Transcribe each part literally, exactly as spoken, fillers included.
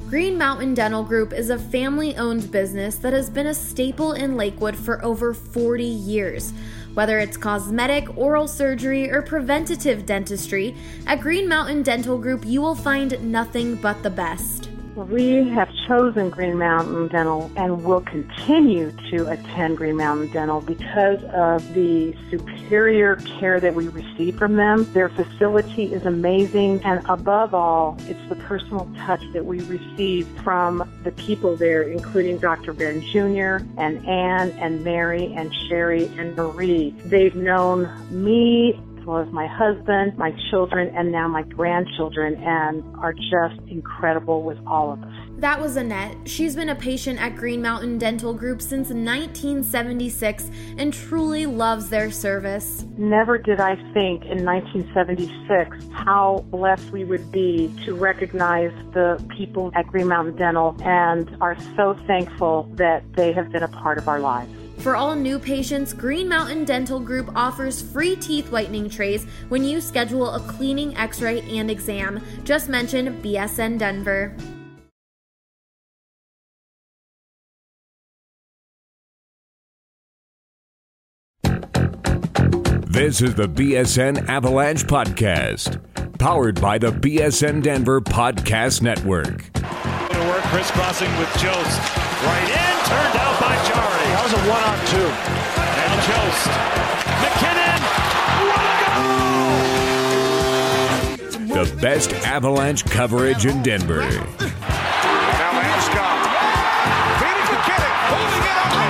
Green Mountain Dental Group is a family-owned business that has been a staple in Lakewood for over forty years. Whether it's cosmetic, oral surgery, or preventative dentistry, at Green Mountain Dental Group you will find nothing but the best. We have chosen Green Mountain Dental and will continue to attend Green Mountain Dental because of the superior care that we receive from them. Their facility is amazing, and above all, it's the personal touch that we receive from the people there, including Doctor Ben Junior and Ann and Mary and Sherry and Marie. They've known me as well as my husband, my children, and now my grandchildren, and are just incredible with all of us. That was Annette. She's been a patient at Green Mountain Dental Group since nineteen seventy-six and truly loves their service. Never did I think in nineteen seventy-six how blessed we would be to recognize the people at Green Mountain Dental, and are so thankful that they have been a part of our lives. For all new patients, Green Mountain Dental Group offers free teeth whitening trays when you schedule a cleaning, x-ray, and exam. Just mention B S N Denver. This is the B S N Avalanche Podcast, powered by the B S N Denver Podcast Network. To work, crisscrossing with Jost. Right in, turned out by Jari. That was a one-on-two. And Jost. McKinnon. What a goal! The best Avalanche coverage in Denver. Now Landeskog. Feeding McKinnon. Holding it up.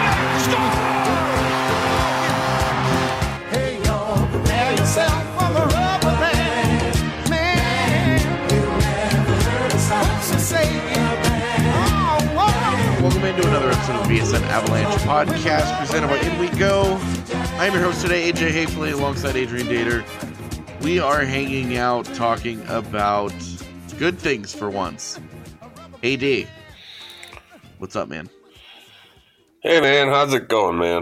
Hey, y'all, prepare yourself for the rubber band. Man, you never heard a song to say it. Welcome into another episode of the B S N Avalanche Podcast, presented by In We Go. I'm your host today, A J Hafley, alongside Adrian Dater. We are hanging out talking about good things for once. A D, what's up, man? Hey, man, how's it going, man?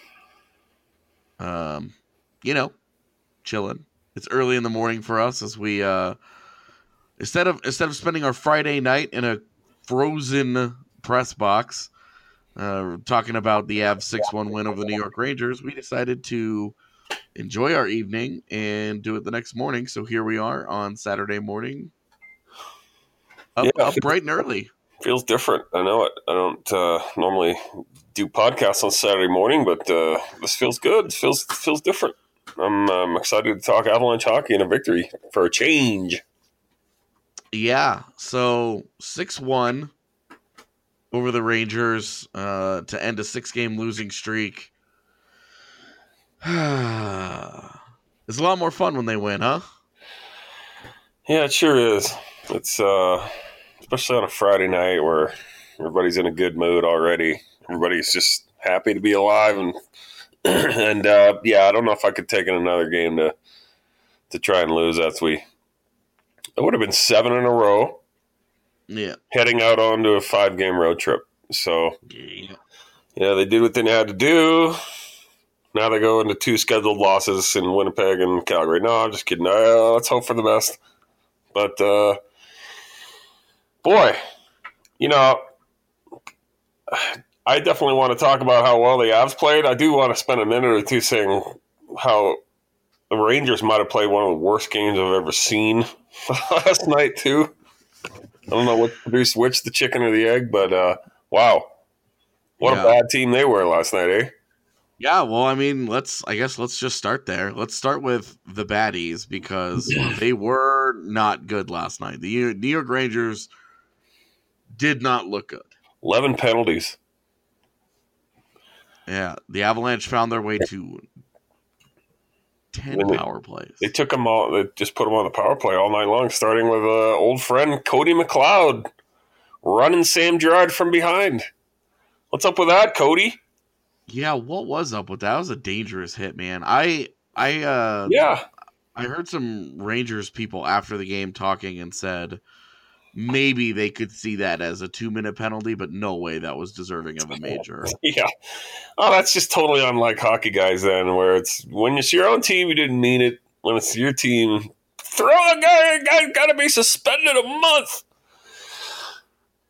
Um, you know, chilling. It's early in the morning for us as we uh, instead of instead of spending our Friday night in a frozen press box, uh, talking about the Avs six one win over the New York Rangers, we decided to enjoy our evening and do it the next morning. So here we are on Saturday morning, up, yeah, up bright and early. Feels different. I know it. I don't uh, normally do podcasts on Saturday morning, but uh, this feels good. It feels feels different. I'm, I'm excited to talk Avalanche hockey and a victory for a change. Yeah, so six one over the Rangers uh, to end a six-game losing streak. It's a lot more fun when they win, huh? Yeah, it sure is. It's uh, especially on a Friday night where everybody's in a good mood already. Everybody's just happy to be alive, and and uh, yeah, I don't know if I could take in another game to to try and lose. That's we. It would have been seven in a row. Yeah, heading out onto a five-game road trip. So, yeah. yeah, they did what they had to do. Now they go into two scheduled losses in Winnipeg and Calgary. No, I'm just kidding. Uh, let's hope for the best. But, uh, boy, you know, I definitely want to talk about how well the Avs played. I do want to spend a minute or two saying how the Rangers might have played one of the worst games I've ever seen last night, too. I don't know what produced which, the chicken or the egg, but uh, wow. What yeah. a bad team they were last night, eh? Yeah, well, I mean, let's I guess let's just start there. Let's start with the baddies because they were not good last night. The New York Rangers did not look good. eleven penalties. Yeah, the Avalanche found their way to ten they, power plays. They took them all. They just put them on the power play all night long, starting with uh, old friend Cody McLeod running Sam Girard from behind. What's up with that, Cody? Yeah, what was up with that? That was a dangerous hit, man. I, I, uh, yeah, I heard some Rangers people after the game talking and said maybe they could see that as a two-minute penalty, but no way that was deserving of a major. Yeah. Oh, that's just totally unlike hockey guys then, where it's when it's your own team, you didn't mean it. When it's your team, throw a guy, a guy got to be suspended a month.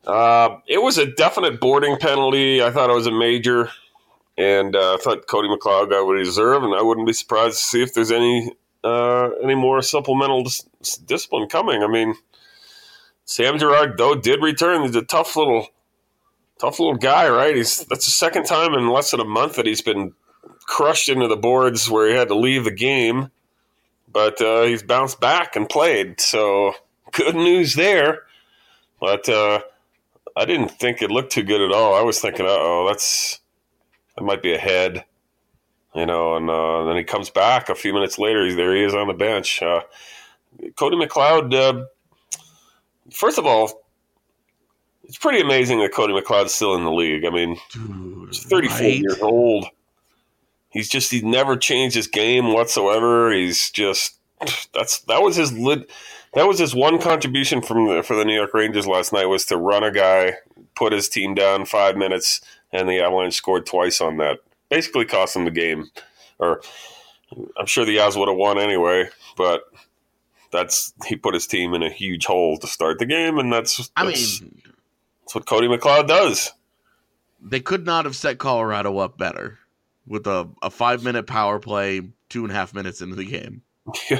Uh, it was a definite boarding penalty. I thought it was a major, and uh, I thought Cody McLeod got what he deserved, and I wouldn't be surprised to see if there's any uh, any more supplemental dis- discipline coming. I mean, Sam Girard, though, did return. He's a tough little tough little guy, right? He's That's the second time in less than a month that he's been crushed into the boards where he had to leave the game, but uh, he's bounced back and played, so good news there. But uh, I didn't think it looked too good at all. I was thinking, uh-oh, that's that might be a head, you know. And uh, then he comes back a few minutes later. He's there. He is on the bench. Uh, Cody McLeod. Uh, first of all, it's pretty amazing that Cody McLeod's still in the league. I mean, Dude, he's thirty-four right? years old. He's just he's never changed his game whatsoever. He's just that's that was his lid. That was his one contribution from the, for the New York Rangers last night, was to run a guy, put his team down five minutes, and the Avalanche scored twice on that. Basically cost them the game. Or I'm sure the Avs would have won anyway, but that's he put his team in a huge hole to start the game, and that's, that's I mean that's what Cody McLeod does. They could not have set Colorado up better with a, a five minute power play, two and a half minutes into the game. Yeah.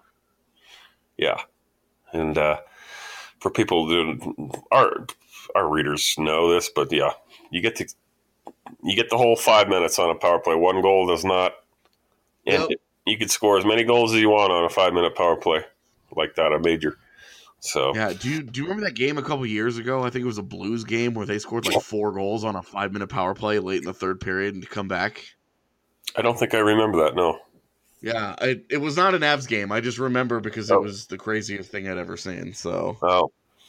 Yeah. And uh, for people who our our readers know this, but yeah, you get to you get the whole five minutes on a power play. One goal does not, and yep. You could score as many goals as you want on a five minute power play like that, a major. So yeah, do you do you remember that game a couple years ago? I think it was a Blues game where they scored like four goals on a five minute power play late in the third period and to come back. I don't think I remember that. No. Yeah, it, it was not an Avs game. I just remember because oh. it was the craziest thing I'd ever seen. So, oh,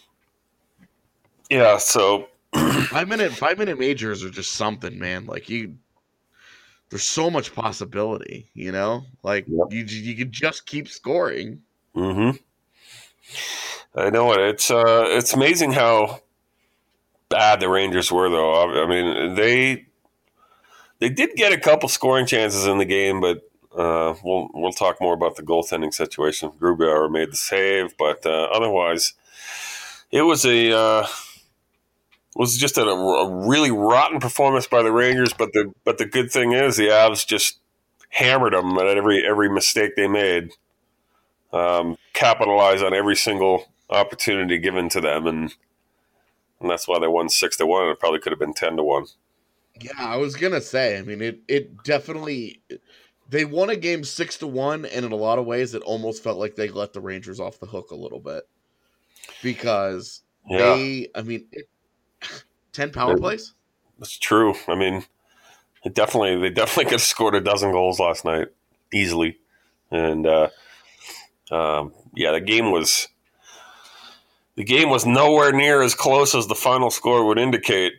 yeah. So five minute five minute majors are just something, man. Like you, there's so much possibility. You know, like yep. you you could just keep scoring. Mm-hmm. I know it. It's uh, it's amazing how bad the Rangers were, though. I mean, they they did get a couple scoring chances in the game, but. Uh, we'll we'll talk more about the goaltending situation. Grubauer made the save, but uh, otherwise, it was a uh, was just a, a really rotten performance by the Rangers. But the but the good thing is the Avs just hammered them at every every mistake they made, um, capitalized on every single opportunity given to them, and and that's why they won six to one. It probably could have been ten to one. Yeah, I was gonna say. I mean, it it definitely. They won a game six to one, and in a lot of ways, it almost felt like they let the Rangers off the hook a little bit because yeah. they. I mean, it, ten power plays. That's true. I mean, it definitely they definitely could have scored a dozen goals last night easily, and uh, um, yeah, the game was the game was nowhere near as close as the final score would indicate.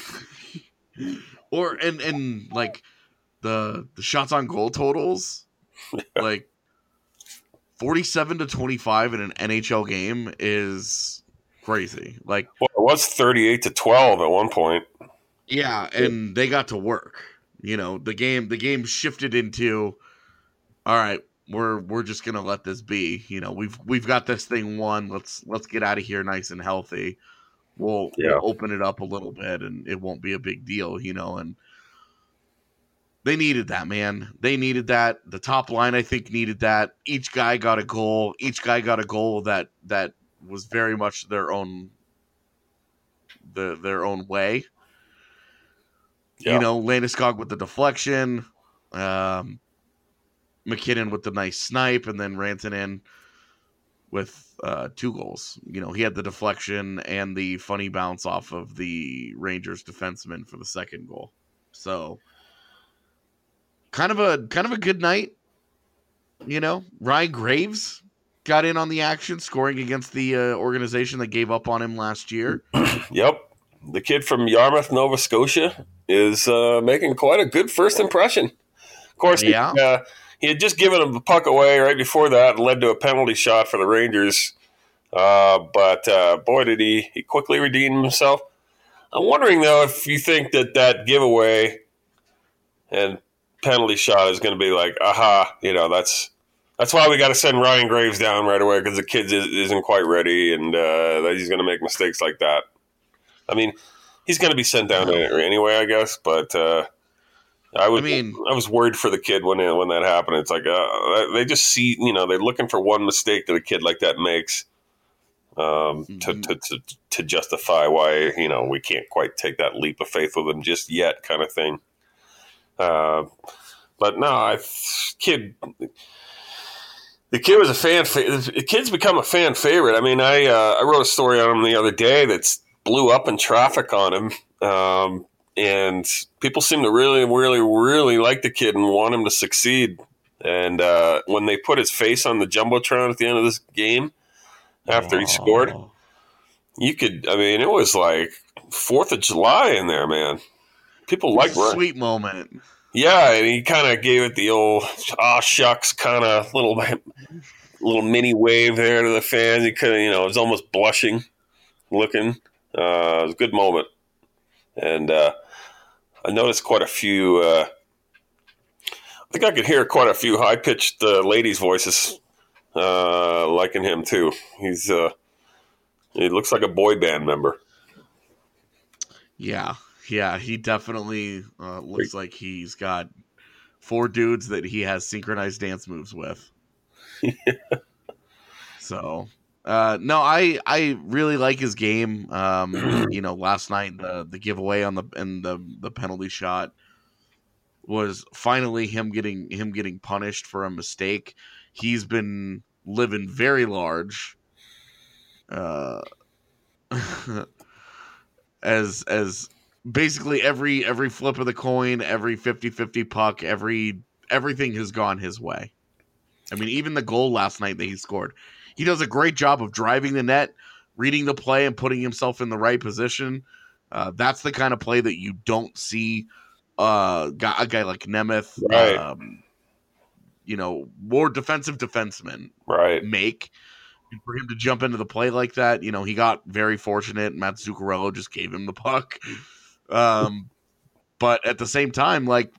Or and and like. The the shots on goal totals, yeah. like forty-seven to twenty-five in an N H L game is crazy. Like, well, it was thirty-eight to twelve at one point. Yeah, and they got to work. You know, the game the game shifted into, all right, we're we're just gonna let this be. You know, we've we've got this thing won. Let's let's get out of here nice and healthy. We'll, yeah. we'll open it up a little bit, and it won't be a big deal. You know, and. They needed that, man. They needed that. The top line, I think, needed that. Each guy got a goal. Each guy got a goal that that was very much their own the their own way. Yeah. You know, Landeskog with the deflection, um, McKinnon with the nice snipe, and then Rantanen with uh, two goals. You know, he had the deflection and the funny bounce off of the Rangers defenseman for the second goal. So. Kind of a kind of a good night, you know. Ryan Graves got in on the action, scoring against the uh, organization that gave up on him last year. Yep, the kid from Yarmouth, Nova Scotia, is uh, making quite a good first impression. Of course, yeah. he, uh, he had just given him the puck away right before that, and led to a penalty shot for the Rangers. Uh, but uh, boy, did he he quickly redeem himself. I'm wondering though if you think that that giveaway and penalty shot is going to be like, aha, you know, that's that's why we got to send Ryan Graves down right away because the kid is, isn't quite ready and uh, he's going to make mistakes like that. I mean, he's going to be sent down anyway, I guess. But uh, I would. I mean, I was worried for the kid when it, when that happened. It's like uh, they just see, you know, they're looking for one mistake that a kid like that makes um, mm-hmm. to, to to to justify why, you know, we can't quite take that leap of faith with him just yet, kind of thing. Uh, but no, I kid. The kid was a fan. Fa- the kid's become a fan favorite. I mean, I uh, I wrote a story on him the other day that's blew up in traffic on him, um, and people seem to really, really, really like the kid and want him to succeed. And uh, when they put his face on the jumbotron at the end of this game after oh. he scored, you could. I mean, it was like Fourth of July in there, man. People like sweet moment. Yeah, and he kind of gave it the old "ah shucks" kind of little little mini wave there to the fans. He could, you know, was almost blushing, looking. Uh, it was a good moment, and uh, I noticed quite a few. Uh, I think I could hear quite a few high pitched uh, ladies' voices uh, liking him too. He's uh, he looks like a boy band member. Yeah. Yeah, he definitely uh, looks like he's got four dudes that he has synchronized dance moves with. Yeah. So, uh, no, I I really like his game. Um, you know, last night the the giveaway on the and the the penalty shot was finally him getting him getting punished for a mistake. He's been living very large. Uh, as as. Basically every every flip of the coin, every fifty-fifty puck, every everything has gone his way. I mean, even the goal last night that he scored, he does a great job of driving the net, reading the play, and putting himself in the right position. Uh, that's the kind of play that you don't see uh, a guy like Nemeth, right. um, you know, more defensive defensemen right. make. For him to jump into the play like that, you know, he got very fortunate. Matt Zuccarello just gave him the puck. Um, but at the same time, like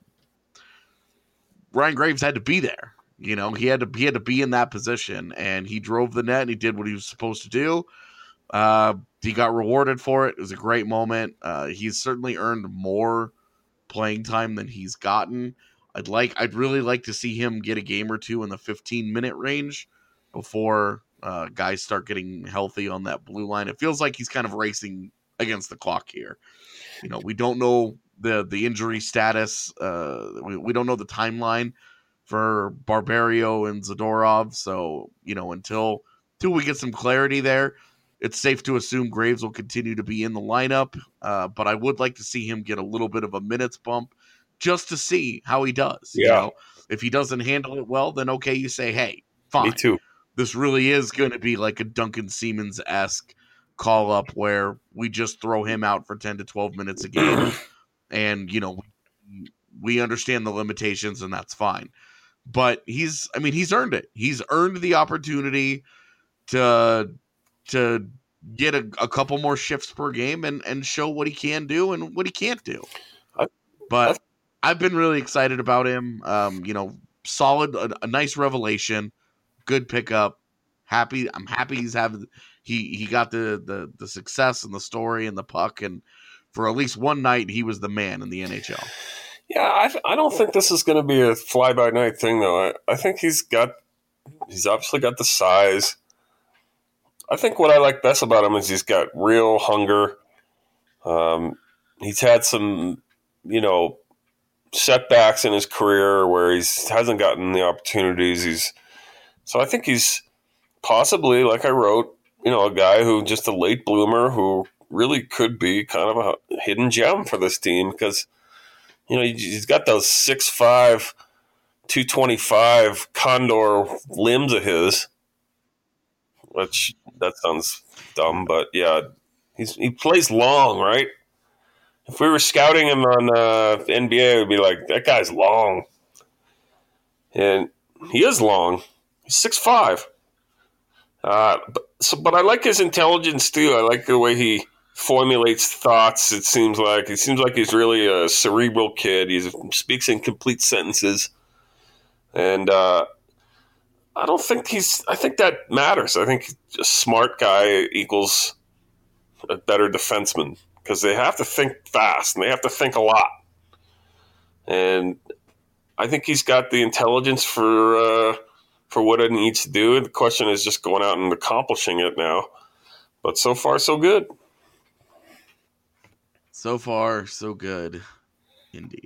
Ryan Graves had to be there. You know, he had to he had to be in that position, and he drove the net and he did what he was supposed to do. Uh, he got rewarded for it. It was a great moment. Uh, he's certainly earned more playing time than he's gotten. I'd like I'd really like to see him get a game or two in the fifteen minute range before uh, guys start getting healthy on that blue line. It feels like he's kind of racing against the clock here. You know, we don't know the the injury status. Uh, we, we don't know the timeline for Barbario and Zadorov. So, you know, until until we get some clarity there, it's safe to assume Graves will continue to be in the lineup. Uh, but I would like to see him get a little bit of a minutes bump just to see how he does. Yeah. You know, if he doesn't handle it well, then okay, you say, hey, fine. Me too. This really is going to be like a Duncan Siemens-esque call up where we just throw him out for ten to twelve minutes a game. And, you know, we understand the limitations and that's fine. But he's, I mean, he's earned it. He's earned the opportunity to, to get a, a couple more shifts per game and, and show what he can do and what he can't do. But I've been really excited about him. Um, you know, solid, a, a nice revelation, good pickup. Happy. I'm happy he's having, he, he got the, the, the success and the story and the puck. And for at least one night, he was the man in the N H L. Yeah, I, I don't think this is going to be a fly-by-night thing, though. I, I think he's got, he's obviously got the size. I think what I like best about him is he's got real hunger. Um, he's had some, you know, setbacks in his career where he hasn't gotten the opportunities. He's so I think he's possibly, like I wrote, you know, a guy who just a late bloomer who really could be kind of a hidden gem for this team because, you know, he's got those six five, two twenty-five Condor limbs of his, which that sounds dumb, but yeah, he's he plays long, right? If we were scouting him on uh, N B A, it would be like, that guy's long. And he is long. He's six five. Uh, but, so, but I like his intelligence, too. I like the way he formulates thoughts, it seems like. It seems like he's really a cerebral kid. He speaks in complete sentences. And uh, I don't think he's – I think that matters. I think a smart guy equals a better defenseman. because they have to think fast and they have to think a lot. And I think he's got the intelligence for uh, for what it needs to do. The question is just going out and accomplishing it now. But so far, so good. So far, so good. Indeed.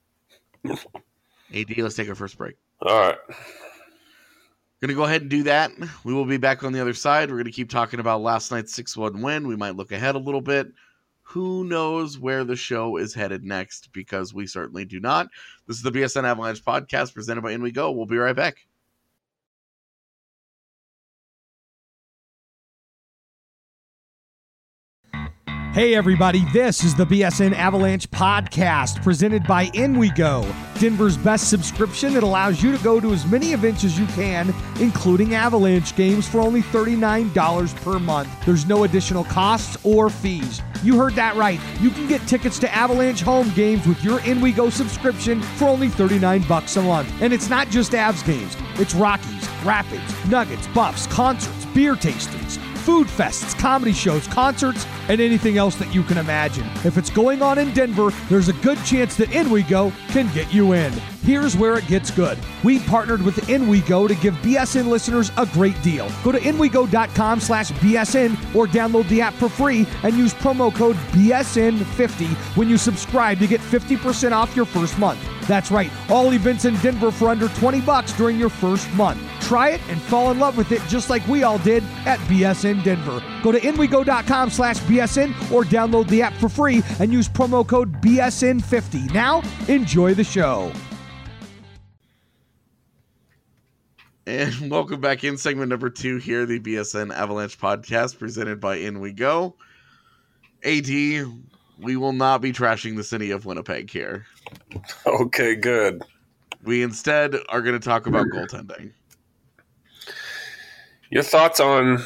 A D, let's take our first break. All right. Going to go ahead and do that. We will be back on the other side. We're going to keep talking about last night's six one win. We might look ahead a little bit. Who knows where the show is headed next, because we certainly do not. This is the B S N Avalanche podcast presented by In We Go. We'll be right back. Hey everybody, this is the B S N Avalanche podcast presented by In We Go, Denver's best subscription that allows you to go to as many events as you can, including Avalanche games, for only thirty-nine dollars per month. There's no additional costs or fees. You heard that right. You can get tickets to Avalanche home games with your In We Go subscription for only thirty-nine bucks a month. And it's not just Avs games. It's Rockies, Rapids, Nuggets, Buffs, concerts, beer tastings, food fests, comedy shows, concerts, and anything else that you can imagine. If it's going on in Denver, there's a good chance that In We Go can get you in. Here's where it gets good. We partnered with In We Go to give B S N listeners a great deal. Go to inwego.com slash BSN or download the app for free and use promo code B S N fifty when you subscribe to get fifty percent off your first month. That's right, all events in Denver for under twenty bucks during your first month. Try it and fall in love with it just like we all did at B S N Denver. Go to inwego.com slash BSN or download the app for free and use promo code B S N fifty. Now, enjoy the show. And welcome back in segment number two here, the B S N Avalanche podcast presented by In We Go. A D, we will not be trashing the city of Winnipeg here. Okay, good. We instead are going to talk about goaltending. Your thoughts on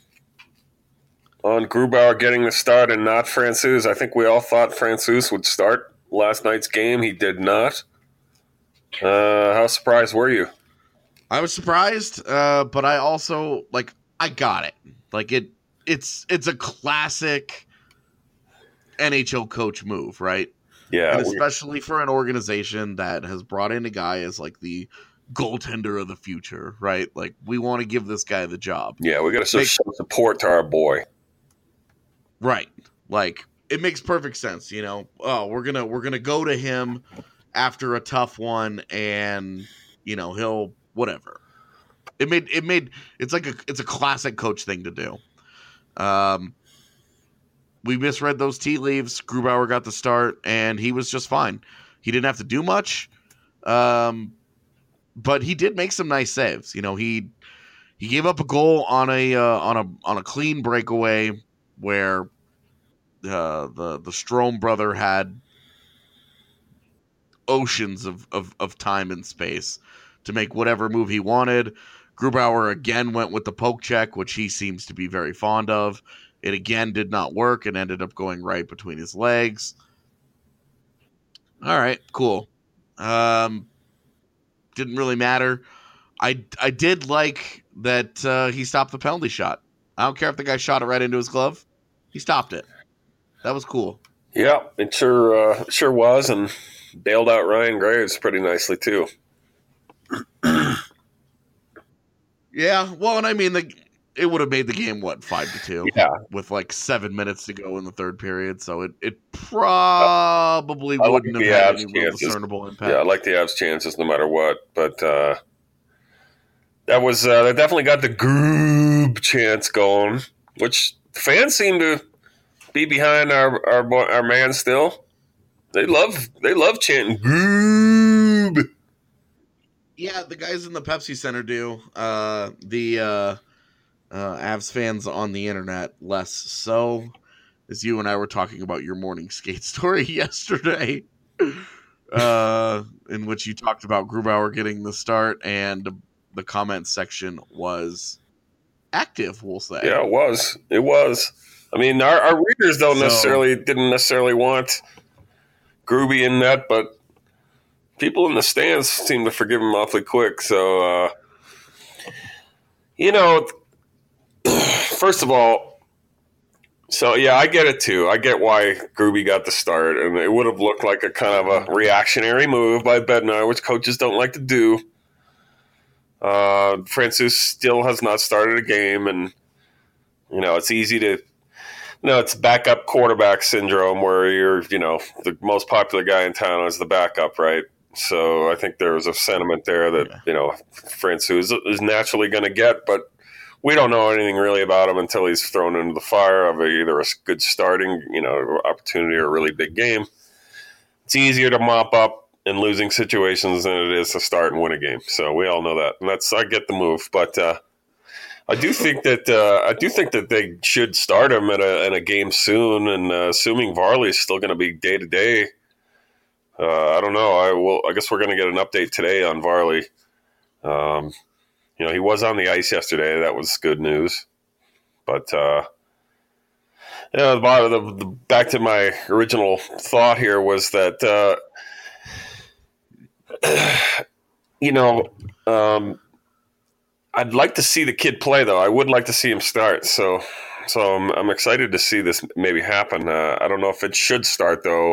on Grubauer getting the start and not Francouz? I think we all thought Francouz would start last night's game. He did not. Uh, how surprised were you? I was surprised, uh, but I also, like, I got it. Like, it, it's it's a classic N H L coach move, right? Yeah. And especially for an organization that has brought in a guy as, like, the goaltender of the future, right? Like, we want to give this guy the job. Yeah, we got to show some support to our boy. Right. Like, it makes perfect sense, you know. Oh, we're gonna we're gonna go to him after a tough one, and you know he'll whatever. It made it made it's like a it's a classic coach thing to do. Um, we misread those tea leaves. Grubauer got the start, and he was just fine. He didn't have to do much, um, but he did make some nice saves. You know, he he gave up a goal on a uh, on a on a clean breakaway where uh, the the Strome brother had oceans of, of, of time and space to make whatever move he wanted. Grubauer again went with the poke check, which he seems to be very fond of. It again did not work and ended up going right between his legs. All right, cool. Um, didn't really matter. I, I did like that uh, he stopped the penalty shot. I don't care if the guy shot it right into his glove. He stopped it. That was cool. Yeah, it sure uh, sure was, and bailed out Ryan Graves pretty nicely too. Yeah, well, and I mean, the, it would have made the game, what, five to two? Yeah. With like seven minutes to go in the third period, so it, it probably I wouldn't like have had Avs any real chances. discernible impact. Yeah, I like the Avs' chances no matter what, but uh, that was uh, that definitely got the Groob chance going, which fans seem to be behind our our, our man still. They love they love chanting Groob. Yeah, the guys in the Pepsi Center do. Uh, the uh, uh, Avs fans on the internet less so, as you and I were talking about your morning skate story yesterday, uh, in which you talked about Grubauer getting the start, and the comment section was active, we'll say. Yeah, it was. It was. I mean, our, our readers don't So- necessarily didn't necessarily want Groovy in that, but people in the stands seem to forgive him awfully quick. So, uh, you know, first of all, So, yeah, I get it, too. I get why Gruby got the start, and it would have looked like a kind of a reactionary move by Bednar, which coaches don't like to do. Uh, Francouz still has not started a game, and, you know, it's easy to, you know, it's backup quarterback syndrome where you're, you know, the most popular guy in town is the backup, right? So I think there's a sentiment there that, yeah. you know, Francouz is naturally going to get, but we don't know anything really about him until he's thrown into the fire of either a good starting, you know, opportunity or a really big game. It's easier to mop up in losing situations than it is to start and win a game. So we all know that, and that's I get the move. But uh, I do think that uh, I do think that they should start him in a, in a game soon. And uh, assuming Varley is still going to be day to day, I don't know. I will. I guess we're going to get an update today on Varley. Um, You know, he was on the ice yesterday. That was good news. But, uh, you know, the, the, the, back to my original thought here was that, uh, you know, um, I'd like to see the kid play, though. I would like to see him start. So so I'm, I'm excited to see this maybe happen. Uh, I don't know if it should start, though.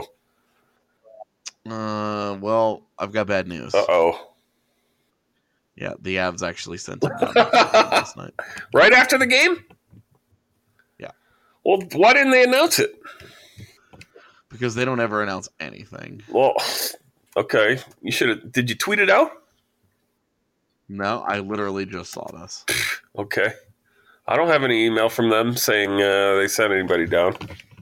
Uh, well, I've got bad news. Uh-oh. Yeah, the Avs actually sent him down last night. Right after the game? Yeah. Well, why didn't they announce it? Because they don't ever announce anything. Well, okay. You should have. Did you tweet it out? No, I literally just saw this. Okay. I don't have any email from them saying uh, they sent anybody down.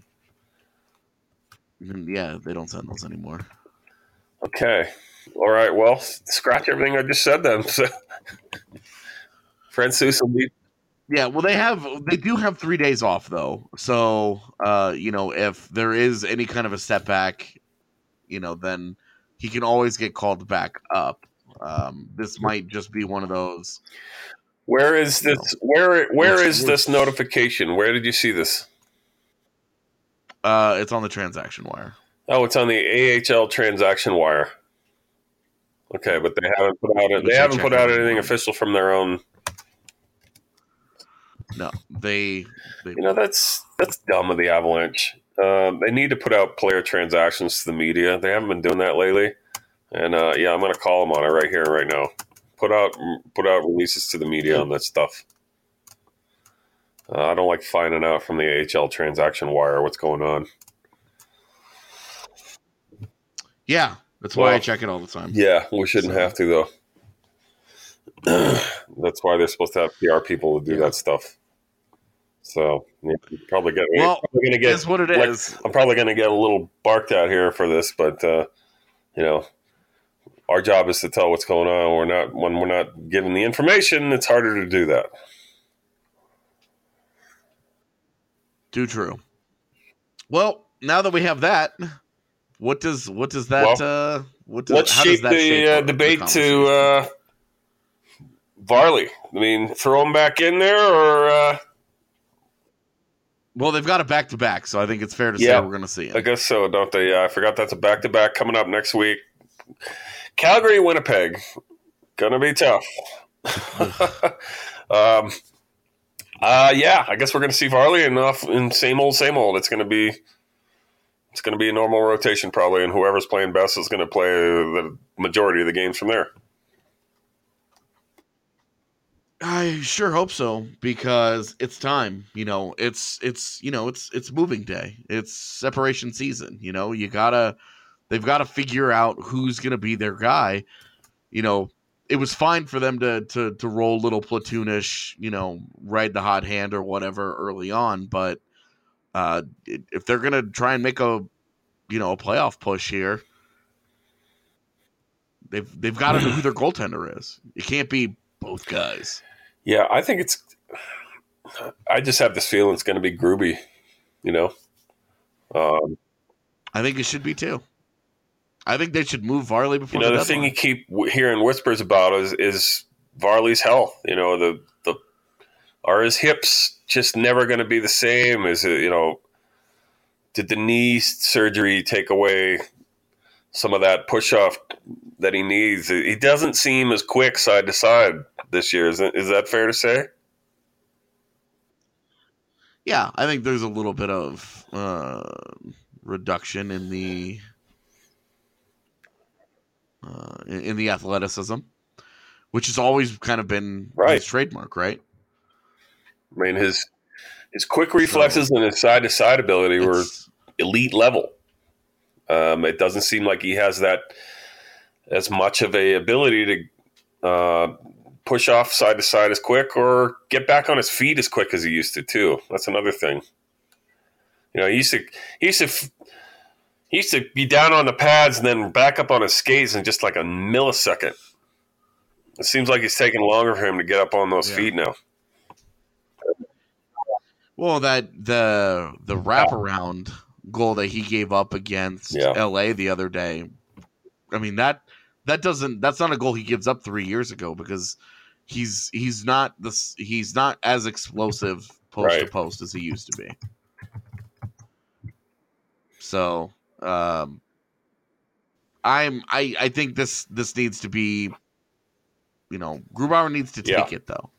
Yeah, they don't send those anymore. Okay. All right, well, scratch everything I just said then. So. Francouz will be. Yeah, well, they have they do have three days off though. So, uh, you know, if there is any kind of a setback, you know, then he can always get called back up. Um, this might just be one of those. Where is this? Know, where where is this notification? Where did you see this? Uh, it's on the transaction wire. Oh, it's on the A H L transaction wire. Okay, but they haven't put out it. They haven't put out anything official from their own. No, they. they you know that's that's dumb of the Avalanche. Um, they need to put out player transactions to the media. They haven't been doing that lately, and uh, yeah, I'm going to call them on it right here, right now. Put out put out releases to the media on that stuff. Uh, I don't like finding out from the A H L transaction wire what's going on. Yeah. That's why well, I check it all the time. Yeah, we shouldn't so. have to, though. That's why they're supposed to have P R people to do yeah. that stuff. So yeah, probably get. Well, probably gonna get. Is what it like, is. I'm probably going to get a little barked at here for this, but uh, you know, our job is to tell what's going on. We're not when we're not given the information. It's harder to do that. Too true. Well, now that we have that. What does what does that well, uh, what does, let's how shape does that the shape uh, the debate to uh, Varley? I mean, throw him back in there, or uh... well, they've got a back to back, so I think it's fair to yeah, say we're going to see him. I guess so, don't they? Uh, I forgot that's a back to back coming up next week. Calgary, Winnipeg, gonna be tough. um, uh, yeah, I guess we're going to see Varley enough in same old, same old. It's going to be. It's going to be a normal rotation probably, and whoever's playing best is going to play the majority of the games from there. I sure hope so, because it's time. You know, it's it's you know it's it's moving day. It's separation season. You know, you gotta they've got to figure out who's going to be their guy. You know, it was fine for them to to to roll little platoonish, you know, ride the hot hand or whatever early on, but. Uh, if they're gonna try and make a, you know, a playoff push here, they've they've got to know who their goaltender is. It can't be both guys. Yeah, I think it's. I just have this feeling it's going to be Gruby. You know, um, I think it should be too. I think they should move Varley before. You know, the, the thing you keep hearing whispers about is is Varley's health. You know, the the are his hips just never going to be the same? Is it, you know, did the knee surgery take away some of that push off that he needs? He doesn't seem as quick side to side this year. Is that, is that fair to say? Yeah, I think there's a little bit of uh, reduction in the uh, in, in the athleticism, which has always kind of been Right. his trademark, right? I mean, his his quick reflexes so, and his side to side ability were elite level. Um, it doesn't seem like he has that as much of a ability to uh, push off side to side as quick or get back on his feet as quick as he used to too. That's another thing. You know, he used to he used to he used to be down on the pads and then back up on his skates in just like a millisecond. It seems like it's taking longer for him to get up on those yeah. feet now. Well, that the the wraparound goal that he gave up against yeah. L A the other day. I mean that that doesn't that's not a goal he gives up three years ago because he's he's not this he's not as explosive post right. to post as he used to be. So um, I'm I I think this this needs to be, you know, Grubauer needs to take yeah. it though.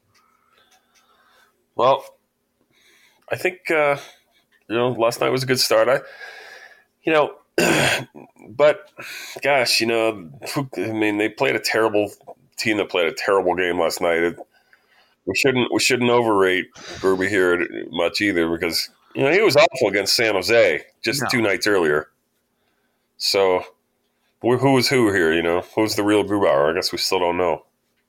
Well, I think uh, you know last night was a good start. I you know. But, gosh, you know, I mean, they played a terrible team that played a terrible game last night. It, we shouldn't we shouldn't overrate Gruby here much either because, you know, he was awful against San Jose just no. two nights earlier. So, who was who here, you know? Who's the real Grubauer? I guess we still don't know.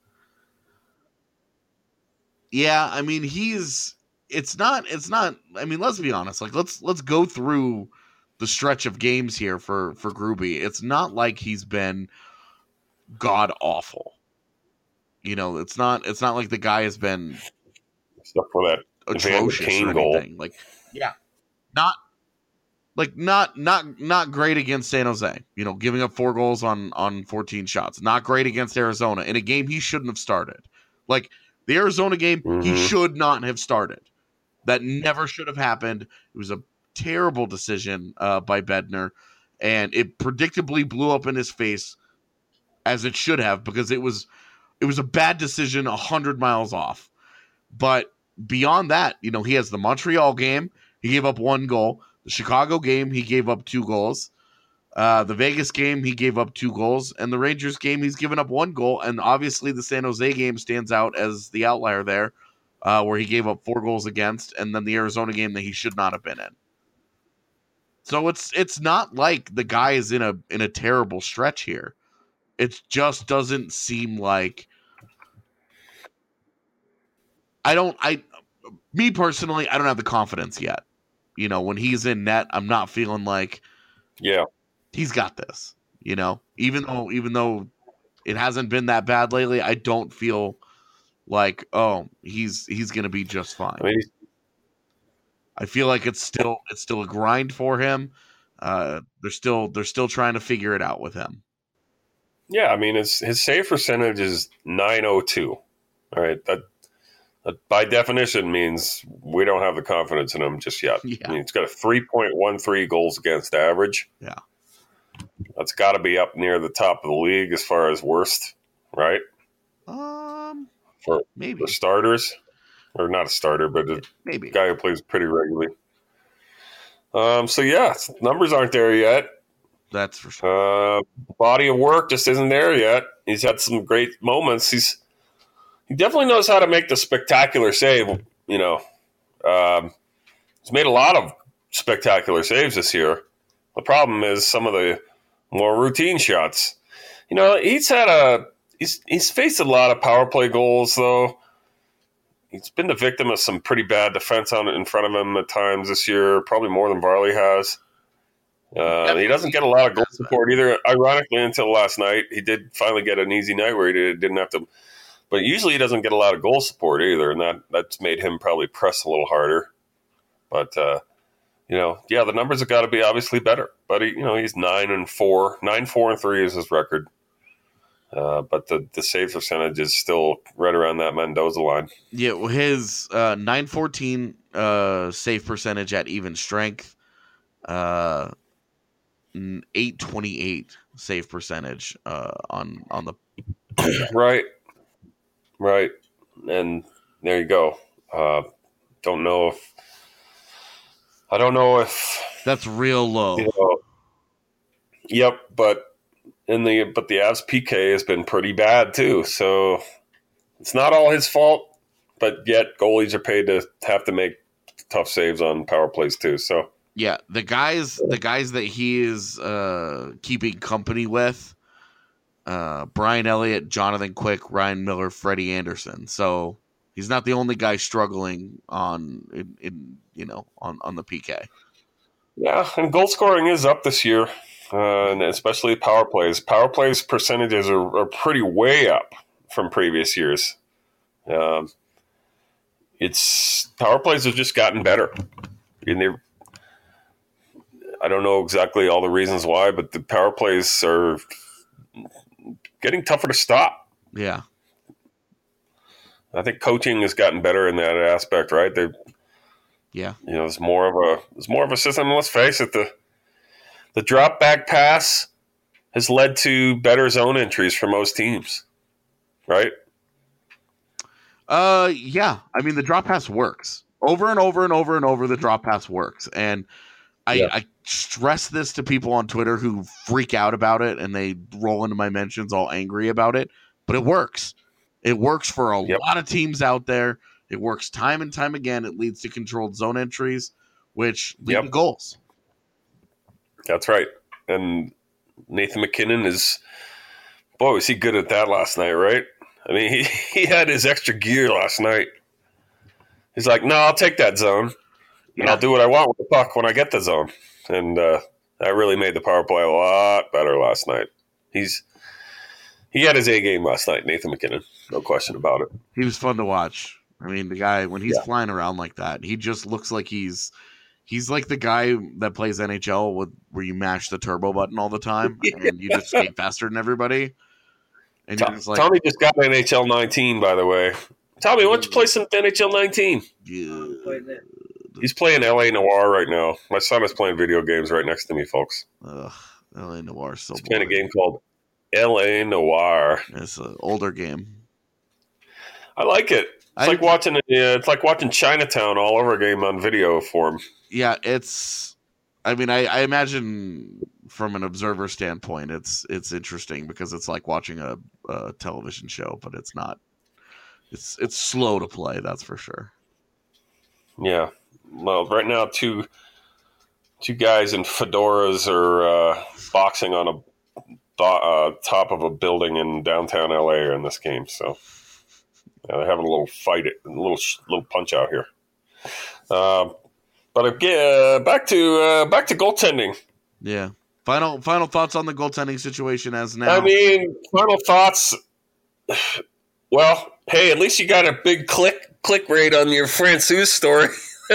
Yeah, I mean, he's – it's not – it's not – I mean, let's be honest. Like, let's let's go through – the stretch of games here for, for Gruby. It's not like he's been god awful. You know, it's not it's not like the guy has been except for that atrocious or anything. Goal. Like yeah. Not like not not not great against San Jose. You know, giving up four goals on on fourteen shots. Not great against Arizona in a game he shouldn't have started. Like the Arizona game, mm-hmm. he should not have started. That never should have happened. It was a terrible decision uh, by Bednar, and it predictably blew up in his face as it should have because it was it was a bad decision a hundred miles off. But beyond that, you know, he has the Montreal game, he gave up one goal. The Chicago game, he gave up two goals. Uh, the Vegas game, he gave up two goals. And the Rangers game, he's given up one goal. And obviously the San Jose game stands out as the outlier there, uh, where he gave up four goals against, and then the Arizona game that he should not have been in. So it's it's not like the guy is in a in a terrible stretch here. It just doesn't seem like I don't I me personally, I don't have the confidence yet. You know, when he's in net, I'm not feeling like yeah, he's got this. You know, even though even though it hasn't been that bad lately, I don't feel like, oh, he's he's gonna be just fine. I mean, I feel like it's still it's still a grind for him. Uh, they're still they're still trying to figure it out with him. Yeah, I mean his his save percentage is nine oh two. All right, that, that by definition means we don't have the confidence in him just yet. Yeah. I mean, he's got a three point one three goals against average. Yeah, that's got to be up near the top of the league as far as worst, right? Um, for maybe for starters. Or not a starter, but a Maybe. guy who plays pretty regularly. Um, so, yeah, numbers aren't there yet. That's for sure. Uh, body of work just isn't there yet. He's had some great moments. He's He definitely knows how to make the spectacular save, you know. Um, he's made a lot of spectacular saves this year. The problem is some of the more routine shots. You know, he's had a he's he's faced a lot of power play goals, though. He's been the victim of some pretty bad defense on in front of him at times this year, probably more than Varley has. Uh, he doesn't get a lot of goal support either. Ironically, until last night, he did finally get an easy night where he did, didn't have to. But usually he doesn't get a lot of goal support either, and that that's made him probably press a little harder. But uh, you know, yeah, the numbers have got to be obviously better. But he, you know, he's nine and four, nine four and three is his record. Uh, but the, the save percentage is still right around that Mendoza line. Yeah, well, his uh, nine fourteen uh, save percentage at even strength, uh, eight twenty-eight save percentage uh, on on the right, right, and there you go. Uh, don't know if I don't know if that's real low. You know, yep, but in the but the Avs P K has been pretty bad too. So it's not all his fault, but yet goalies are paid to have to make tough saves on power plays too. So yeah, the guys the guys that he is uh, keeping company with, uh, Brian Elliott, Jonathan Quick, Ryan Miller, Freddie Anderson. So he's not the only guy struggling on in, in you know on, on the P K. Yeah, and goal scoring is up this year, uh, and especially power plays. Power plays percentages are, are pretty way up from previous years. Um, it's power plays have just gotten better, and they. I don't know exactly all the reasons why, but the power plays are getting tougher to stop. Yeah, I think coaching has gotten better in that aspect, right? They. Yeah, you know, it's more of a it's more of a system. Let's face it, the the drop back pass has led to better zone entries for most teams, right? Uh, yeah. I mean, the drop pass works over and over and over and over. The drop pass works, and I, yeah. I stress this to people on Twitter who freak out about it and they roll into my mentions all angry about it. But it works. It works for a yep. lot of teams out there. It works time and time again. It leads to controlled zone entries, which lead yep. to goals. That's right. And Nathan MacKinnon is, boy, was he good at that last night, right? I mean, he, he had his extra gear last night. He's like, no, I'll take that zone, and yeah. I'll do what I want with the puck when I get the zone. And uh, that really made the power play a lot better last night. He's He had his A game last night, Nathan MacKinnon. No question about it. He was fun to watch. I mean, the guy, when he's yeah. flying around like that, he just looks like he's he's like the guy that plays N H L with where you mash the turbo button all the time and you just skate faster than everybody. And Tom, just like, Tommy just got N H L nineteen, by the way. Tommy, why don't you play some N H L nineteen? Yeah. He's playing L A Noire right now. My son is playing video games right next to me, folks. Ugh, L A Noire is so He's boring. playing a game called L A Noire. It's an older game. I like it. It's I, like watching. Uh, it's like watching Chinatown all over again on video form. Yeah, it's. I mean, I, I imagine from an observer standpoint, it's it's interesting because it's like watching a, a television show, but it's not. It's it's slow to play. That's for sure. Yeah. Well, right now, two two guys in fedoras are uh, boxing on a uh, top of a building in downtown L A in this game. So. Yeah, they're having a little fight, a little little punch out here. Uh, but again, uh, back to uh, back to goaltending. Yeah. Final final thoughts on the goaltending situation as now. I mean, final thoughts. Well, hey, at least you got a big click click rate on your Francouz story.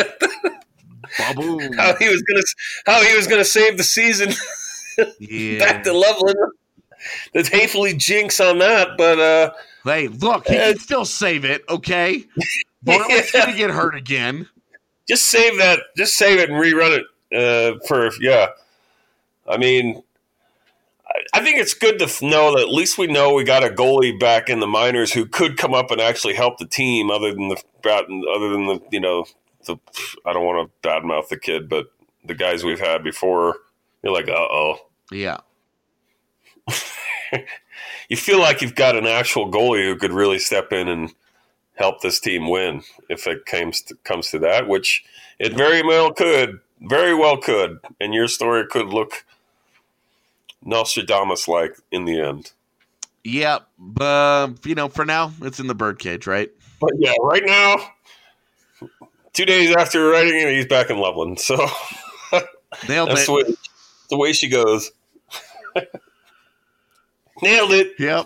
Baboom. How he was gonna how he was gonna save the season. Yeah. Back to Loveland. The hatefully jinx on that, but. Uh, Hey, look, he can still save it, okay? Bartlett's yeah. going to get hurt again. Just save that. Just save it and rerun it uh, for, yeah. I mean, I, I think it's good to know that at least we know we got a goalie back in the minors who could come up and actually help the team other than the, other than the, you know, the, I don't want to badmouth the kid, but the guys we've had before, you're like, uh-oh. Yeah. You feel like you've got an actual goalie who could really step in and help this team win if it comes to, comes to that, which it very well could, very well could. And your story could look Nostradamus-like in the end. Yeah, but, you know, for now, it's in the birdcage, right? But, yeah, right now, two days after writing it, he's back in Loveland. So Nailed that's it. The way, the way she goes. Nailed it. Yep.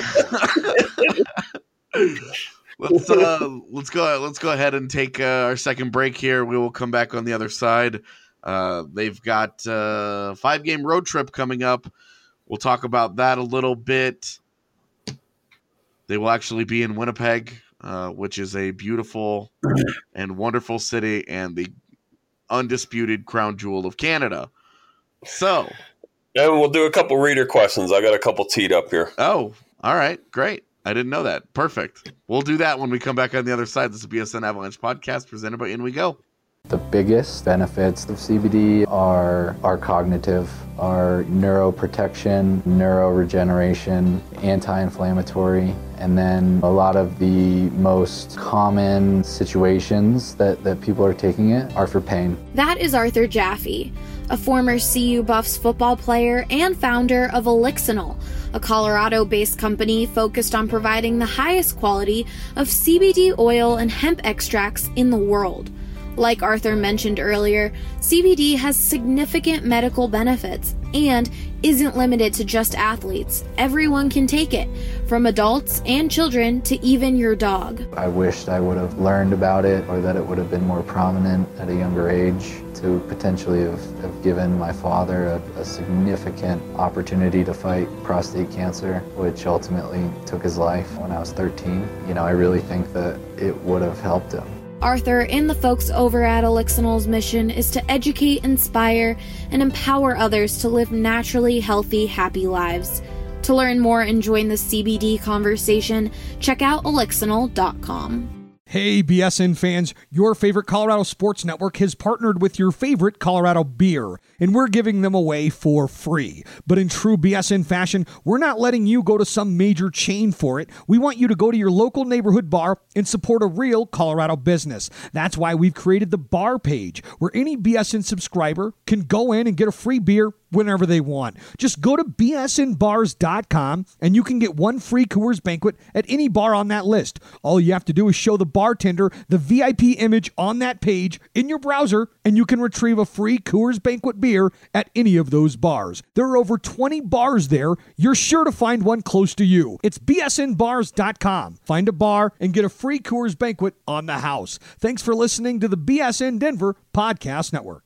let's uh, let's go. Let's go ahead and take uh, our second break here. We will come back on the other side. Uh, they've got a uh, five game road trip coming up. We'll talk about that a little bit. They will actually be in Winnipeg, uh, which is a beautiful and wonderful city and the undisputed crown jewel of Canada. So. And we'll do a couple reader questions. I got a couple teed up here. Oh, all right. Great. I didn't know that. Perfect. We'll do that when we come back on the other side. This is the B S N Avalanche podcast presented by In We Go. The biggest benefits of C B D are are cognitive, are neuroprotection, neuroregeneration, anti-inflammatory, and then a lot of the most common situations that, that people are taking it are for pain. That is Arthur Jaffe, a former C U Buffs football player and founder of Elixinol, a Colorado-based company focused on providing the highest quality of C B D oil and hemp extracts in the world. Like Arthur mentioned earlier, C B D has significant medical benefits and isn't limited to just athletes. Everyone can take it, from adults and children to even your dog. I wished I would have learned about it, or that it would have been more prominent at a younger age to potentially have, have given my father a, a significant opportunity to fight prostate cancer, which ultimately took his life when I was thirteen. You know, I really think that it would have helped him. Arthur and the folks over at Elixinol's mission is to educate, inspire, and empower others to live naturally healthy, happy lives. To learn more and join the C B D conversation, check out elixinol dot com. Hey, B S N fans, your favorite Colorado Sports Network has partnered with your favorite Colorado beer, and we're giving them away for free. But in true B S N fashion, we're not letting you go to some major chain for it. We want you to go to your local neighborhood bar and support a real Colorado business. That's why we've created the bar page, where any B S N subscriber can go in and get a free beer whenever they want. Just go to b s n bars dot com and you can get one free Coors Banquet at any bar on that list. All you have to do is show the bartender the V I P image on that page in your browser, and you can retrieve a free Coors Banquet beer at any of those bars. There are over twenty bars there. You're sure to find one close to you. It's b s n bars dot com. Find a bar and get a free Coors Banquet on the house. Thanks for listening to the B S N Denver Podcast Network.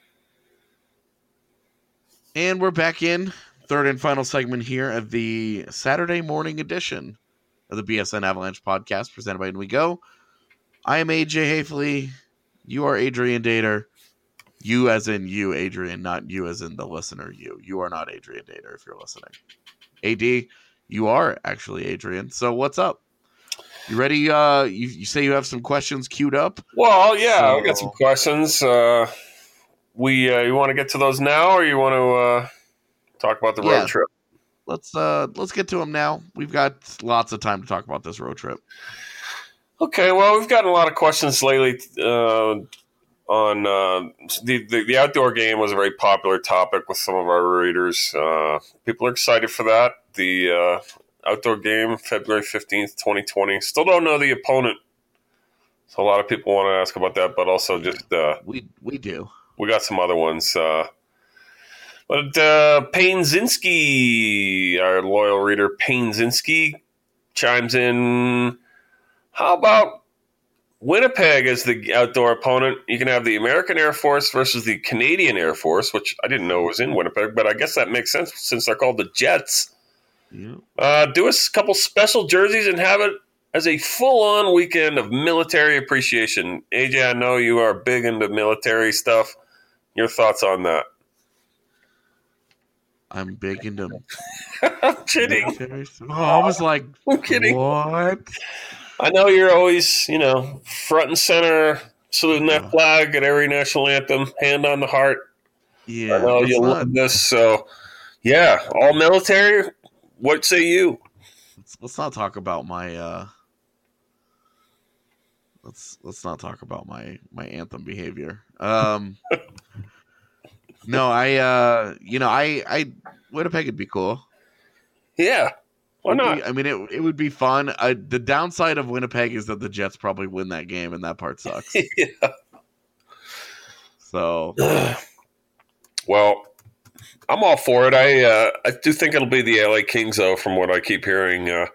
And we're back in, third and final segment here of the Saturday morning edition of the B S N Avalanche podcast presented by In We Go. I am A J Hafley. You are Adrian Dater. You as in you, Adrian, not you as in the listener, you. You are not Adrian Dater if you're listening. A D, you are actually Adrian. So what's up? You ready? Uh, you, you say you have some questions queued up? Well, yeah, so, I've got some questions. Uh, we uh, you want to get to those now, or you want to uh, talk about the road yeah. trip? Let's uh, let's get to them now. We've got lots of time to talk about this road trip. Okay, well, we've gotten a lot of questions lately uh, on uh, the, the the outdoor game was a very popular topic with some of our readers. Uh, people are excited for that. The uh, outdoor game, February fifteenth, twenty twenty. Still don't know the opponent. So a lot of people want to ask about that, but also just uh, we we do. We got some other ones. Uh, but uh, Payne Zinski, our loyal reader, Payne Zinski, chimes in. How about Winnipeg as the outdoor opponent? You can have the American Air Force versus the Canadian Air Force, which I didn't know was in Winnipeg, but I guess that makes sense since they're called the Jets. Yeah. Uh, do a couple special jerseys and have it as a full-on weekend of military appreciation. A J, I know you are big into military stuff. Your thoughts on that? I'm big into I'm kidding. Oh, I was like, I'm kidding. What? I know you're always, you know, front and center, saluting that flag at every national anthem, hand on the heart. Yeah, I know you love this. So, yeah, all military. What say you? Let's, let's not talk about my. Uh, let's let's not talk about my my anthem behavior. Um, no, I. Uh, you know, I. I Winnipeg would be cool. Yeah. Why not? I mean, it it would be fun. Uh, the downside of Winnipeg is that the Jets probably win that game, and that part sucks. Yeah. So, well, I'm all for it. I uh, I do think it'll be the L A Kings, though, from what I keep hearing. Uh,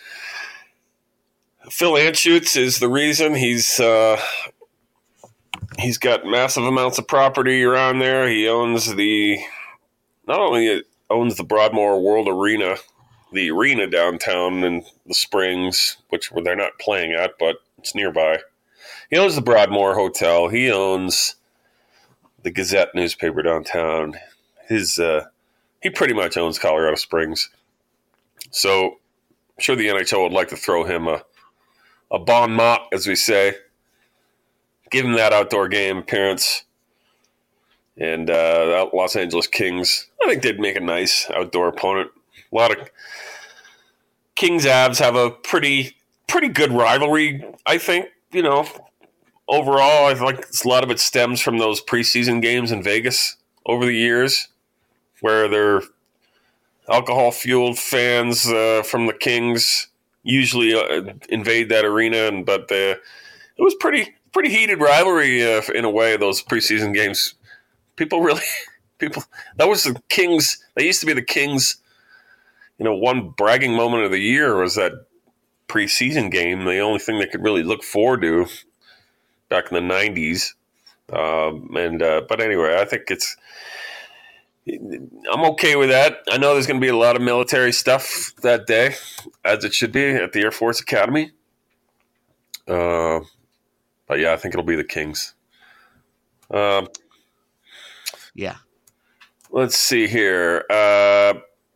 Phil Anschutz is the reason. He's uh, he's got massive amounts of property around there. He owns the not only owns the Broadmoor World Arena, the arena downtown in the Springs, which they're not playing at, but it's nearby. He owns the Broadmoor Hotel. He owns the Gazette newspaper downtown. His uh, he pretty much owns Colorado Springs. So I'm sure the N H L would like to throw him a a bon mot, as we say, give him that outdoor game appearance. And uh, Los Angeles Kings, I think they'd make a nice outdoor opponent. A lot of Kings Avs have a pretty pretty good rivalry, I think. You know, overall, I feel like a lot of it stems from those preseason games in Vegas over the years, where they're alcohol-fueled fans uh, from the Kings usually uh, invade that arena, and but uh, it was pretty pretty heated rivalry uh, in a way. Those preseason games, people really people that was the Kings. They used to be the Kings. You know, one bragging moment of the year was that preseason game. The only thing they could really look forward to back in the nineties. Um, and uh, but anyway, I think it's. I'm okay with that. I know there's going to be a lot of military stuff that day, as it should be at the Air Force Academy. Uh, but yeah, I think it'll be the Kings. Um, yeah. Let's see here. Uh,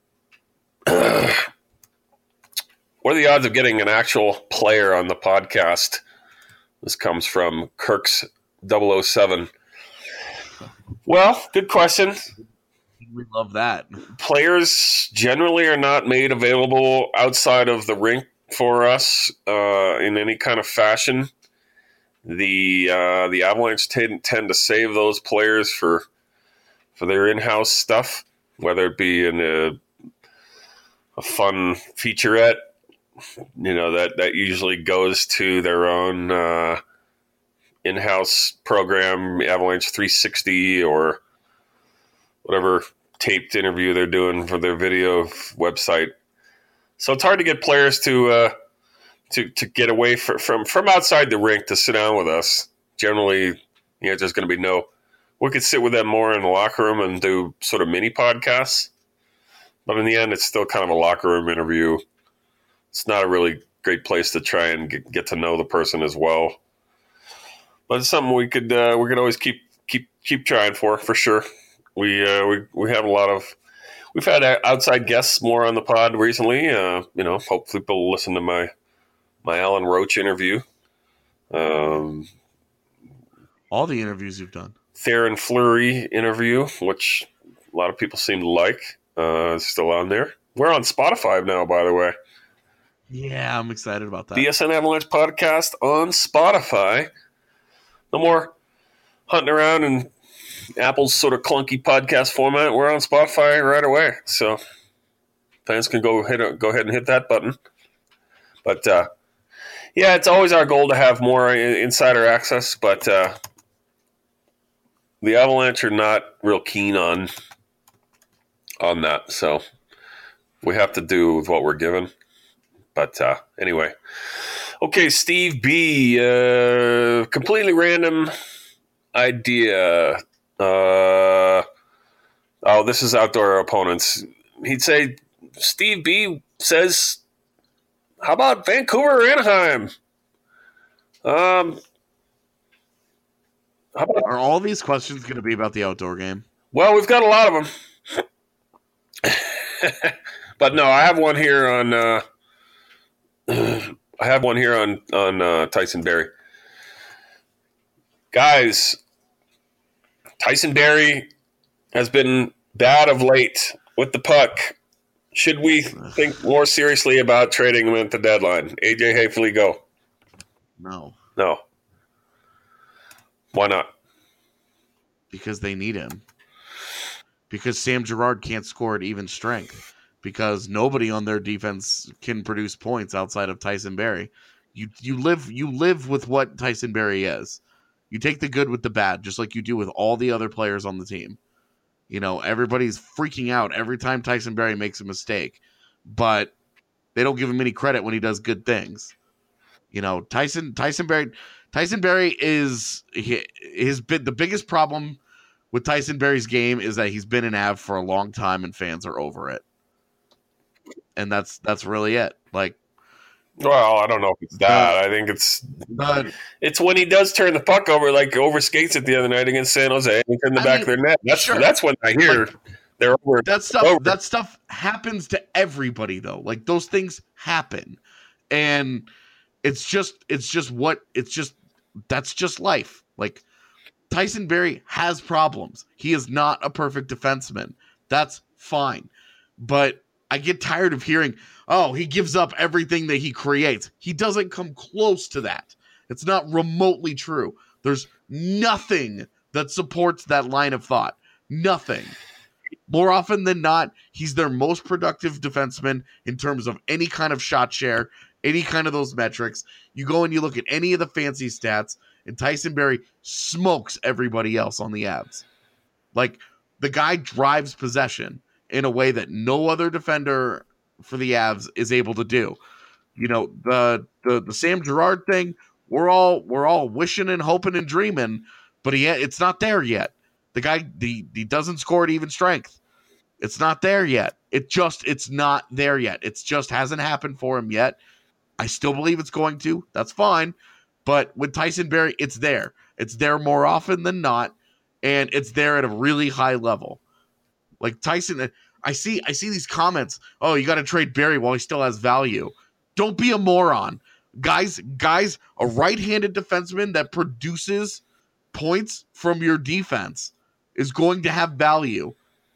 what are the odds of getting an actual player on the podcast? This comes from Kirk's double oh seven. Well, good question. We love that. Players generally are not made available outside of the rink for us uh, in any kind of fashion. The uh, the Avalanche tend, tend to save those players for for their in-house stuff, whether it be in a, a fun featurette, you know, that, that usually goes to their own uh, in-house program, Avalanche three sixty, or whatever taped interview they're doing for their video website. So it's hard to get players to uh, to to get away for, from from outside the rink to sit down with us. Generally, you know, there's going to be no. We could sit with them more in the locker room and do sort of mini podcasts, but in the end, it's still kind of a locker room interview. It's not a really great place to try and get, get to know the person as well. But it's something we could uh, we could always keep keep keep trying for for sure. We uh, we we have a lot of we've had outside guests more on the pod recently. Uh, you know, hopefully people will listen to my my Alan Roach interview. Um, all the interviews you've done. Theoren Fleury interview, which a lot of people seem to like. Uh, it's still on there. We're on Spotify now, by the way. Yeah, I'm excited about that. B S N Avalanche podcast on Spotify. No more hunting around in Apple's sort of clunky podcast format. We're on Spotify right away, so fans can go hit go ahead and hit that button. But uh, yeah, it's always our goal to have more insider access, but uh, the Avalanche are not real keen on on that, so we have to do with what we're given. But uh, anyway, okay, Steve B, uh, completely random idea. Uh, oh, this is outdoor opponents. He'd say, Steve B says, how about Vancouver or Anaheim? Um, how about, are all these questions going to be about the outdoor game? Well, we've got a lot of them. But no, I have one here on, uh, I have one here on, on uh, Tyson Barrie. Guys, Tyson Barrie has been bad of late with the puck. Should we think more seriously about trading him at the deadline? A J Haefele, go. No. No. Why not? Because they need him. Because Sam Girard can't score at even strength. Because nobody on their defense can produce points outside of Tyson Barrie. You you live you live with what Tyson Barrie is. You take the good with the bad, just like you do with all the other players on the team. You know, everybody's freaking out every time Tyson Barrie makes a mistake, but they don't give him any credit when he does good things. You know, Tyson Tyson Barrie Tyson Barrie is he, his bit the biggest problem with Tyson Barrie's game is that he's been an Av for a long time and fans are over it. And that's that's really it. Like, well, I don't know if it's that. Uh, I think it's but, it's when he does turn the puck over, like over skates it the other night against San Jose, and turn the I back mean, of their net. That's sure. that's when I hear like, they're over. That stuff over. that stuff happens to everybody though. Like those things happen, and it's just it's just what it's just that's just life. Like, Tyson Barrie has problems. He is not a perfect defenseman. That's fine. But I get tired of hearing, oh, he gives up everything that he creates. He doesn't come close to that. It's not remotely true. There's nothing that supports that line of thought. Nothing. More often than not, he's their most productive defenseman in terms of any kind of shot share, any kind of those metrics. You go and you look at any of the fancy stats, and Tyson Barrie smokes everybody else on the Avs. Like, the guy drives possession in a way that no other defender for the Avs is able to do. You know, the the, the Sam Girard thing, we're all we're all wishing and hoping and dreaming, but he it's not there yet. The guy he, he doesn't score at even strength. It's not there yet. It just it's not there yet. It's just hasn't happened for him yet. I still believe it's going to. That's fine. But with Tyson Barrie, it's there. It's there more often than not, and it's there at a really high level. Like Tyson, I see I see these comments, oh, you got to trade Barrie while he still has value. Don't be a moron. Guys, guys, a right-handed defenseman that produces points from your defense is going to have value.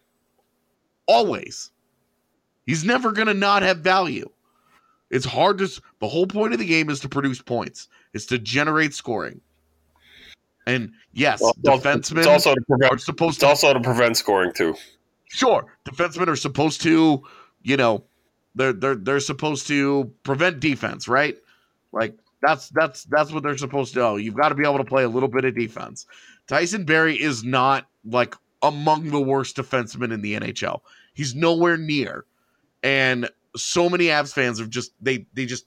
Always. He's never going to not have value. It's hard to, the whole point of the game is to produce points. It's to generate scoring. And yes, well, defensemen it's also to prevent, are supposed it's to also to prevent scoring too. Sure, defensemen are supposed to, you know, they're they're they're supposed to prevent defense, right? Like that's that's that's what they're supposed to do. You've got to be able to play a little bit of defense. Tyson Barrie is not like among the worst defensemen in the N H L. He's nowhere near. And so many Avs fans have just they they just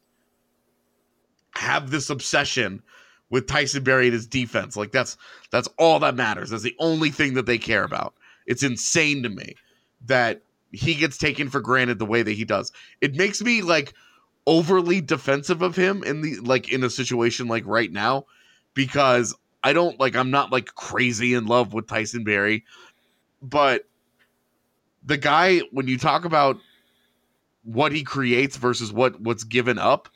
have this obsession with Tyson Barrie and his defense. Like that's that's all that matters. That's the only thing that they care about. It's insane to me that he gets taken for granted the way that he does. It makes me like overly defensive of him in the like in a situation like right now, because I don't like I'm not like crazy in love with Tyson Barrie, but the guy, when you talk about what he creates versus what what's given up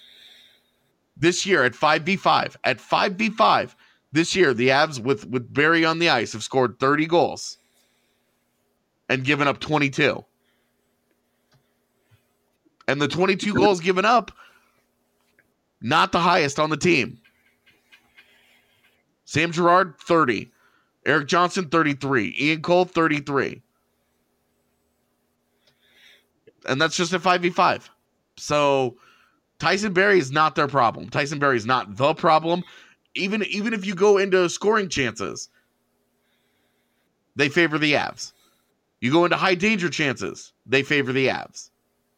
this year at five v five, at five v five this year, the Avs with with Barrie on the ice have scored thirty goals and given up twenty-two. And the twenty-two goals given up, not the highest on the team. Sam Girard, thirty. Erik Johnson, thirty-three. Ian Cole, thirty-three. And that's just at five v five. So Tyson Barrie is not their problem. Tyson Barrie is not the problem. Even, even if you go into scoring chances, they favor the Avs. You go into high danger chances, they favor the Avs.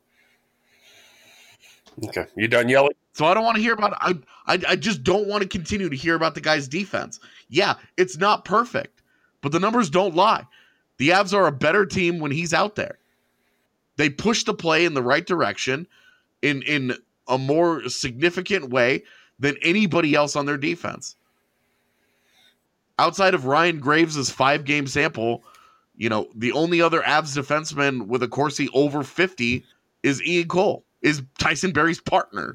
Okay, you done yelling? So I don't want to hear about I, I I just don't want to continue to hear about the guy's defense. Yeah, it's not perfect, but the numbers don't lie. The Avs are a better team when he's out there. They push the play in the right direction in, in a more significant way than anybody else on their defense. Outside of Ryan Graves' five-game sample, you know, the only other Avs defenseman with a Corsi over fifty is Ian Cole, is Tyson Barrie's partner.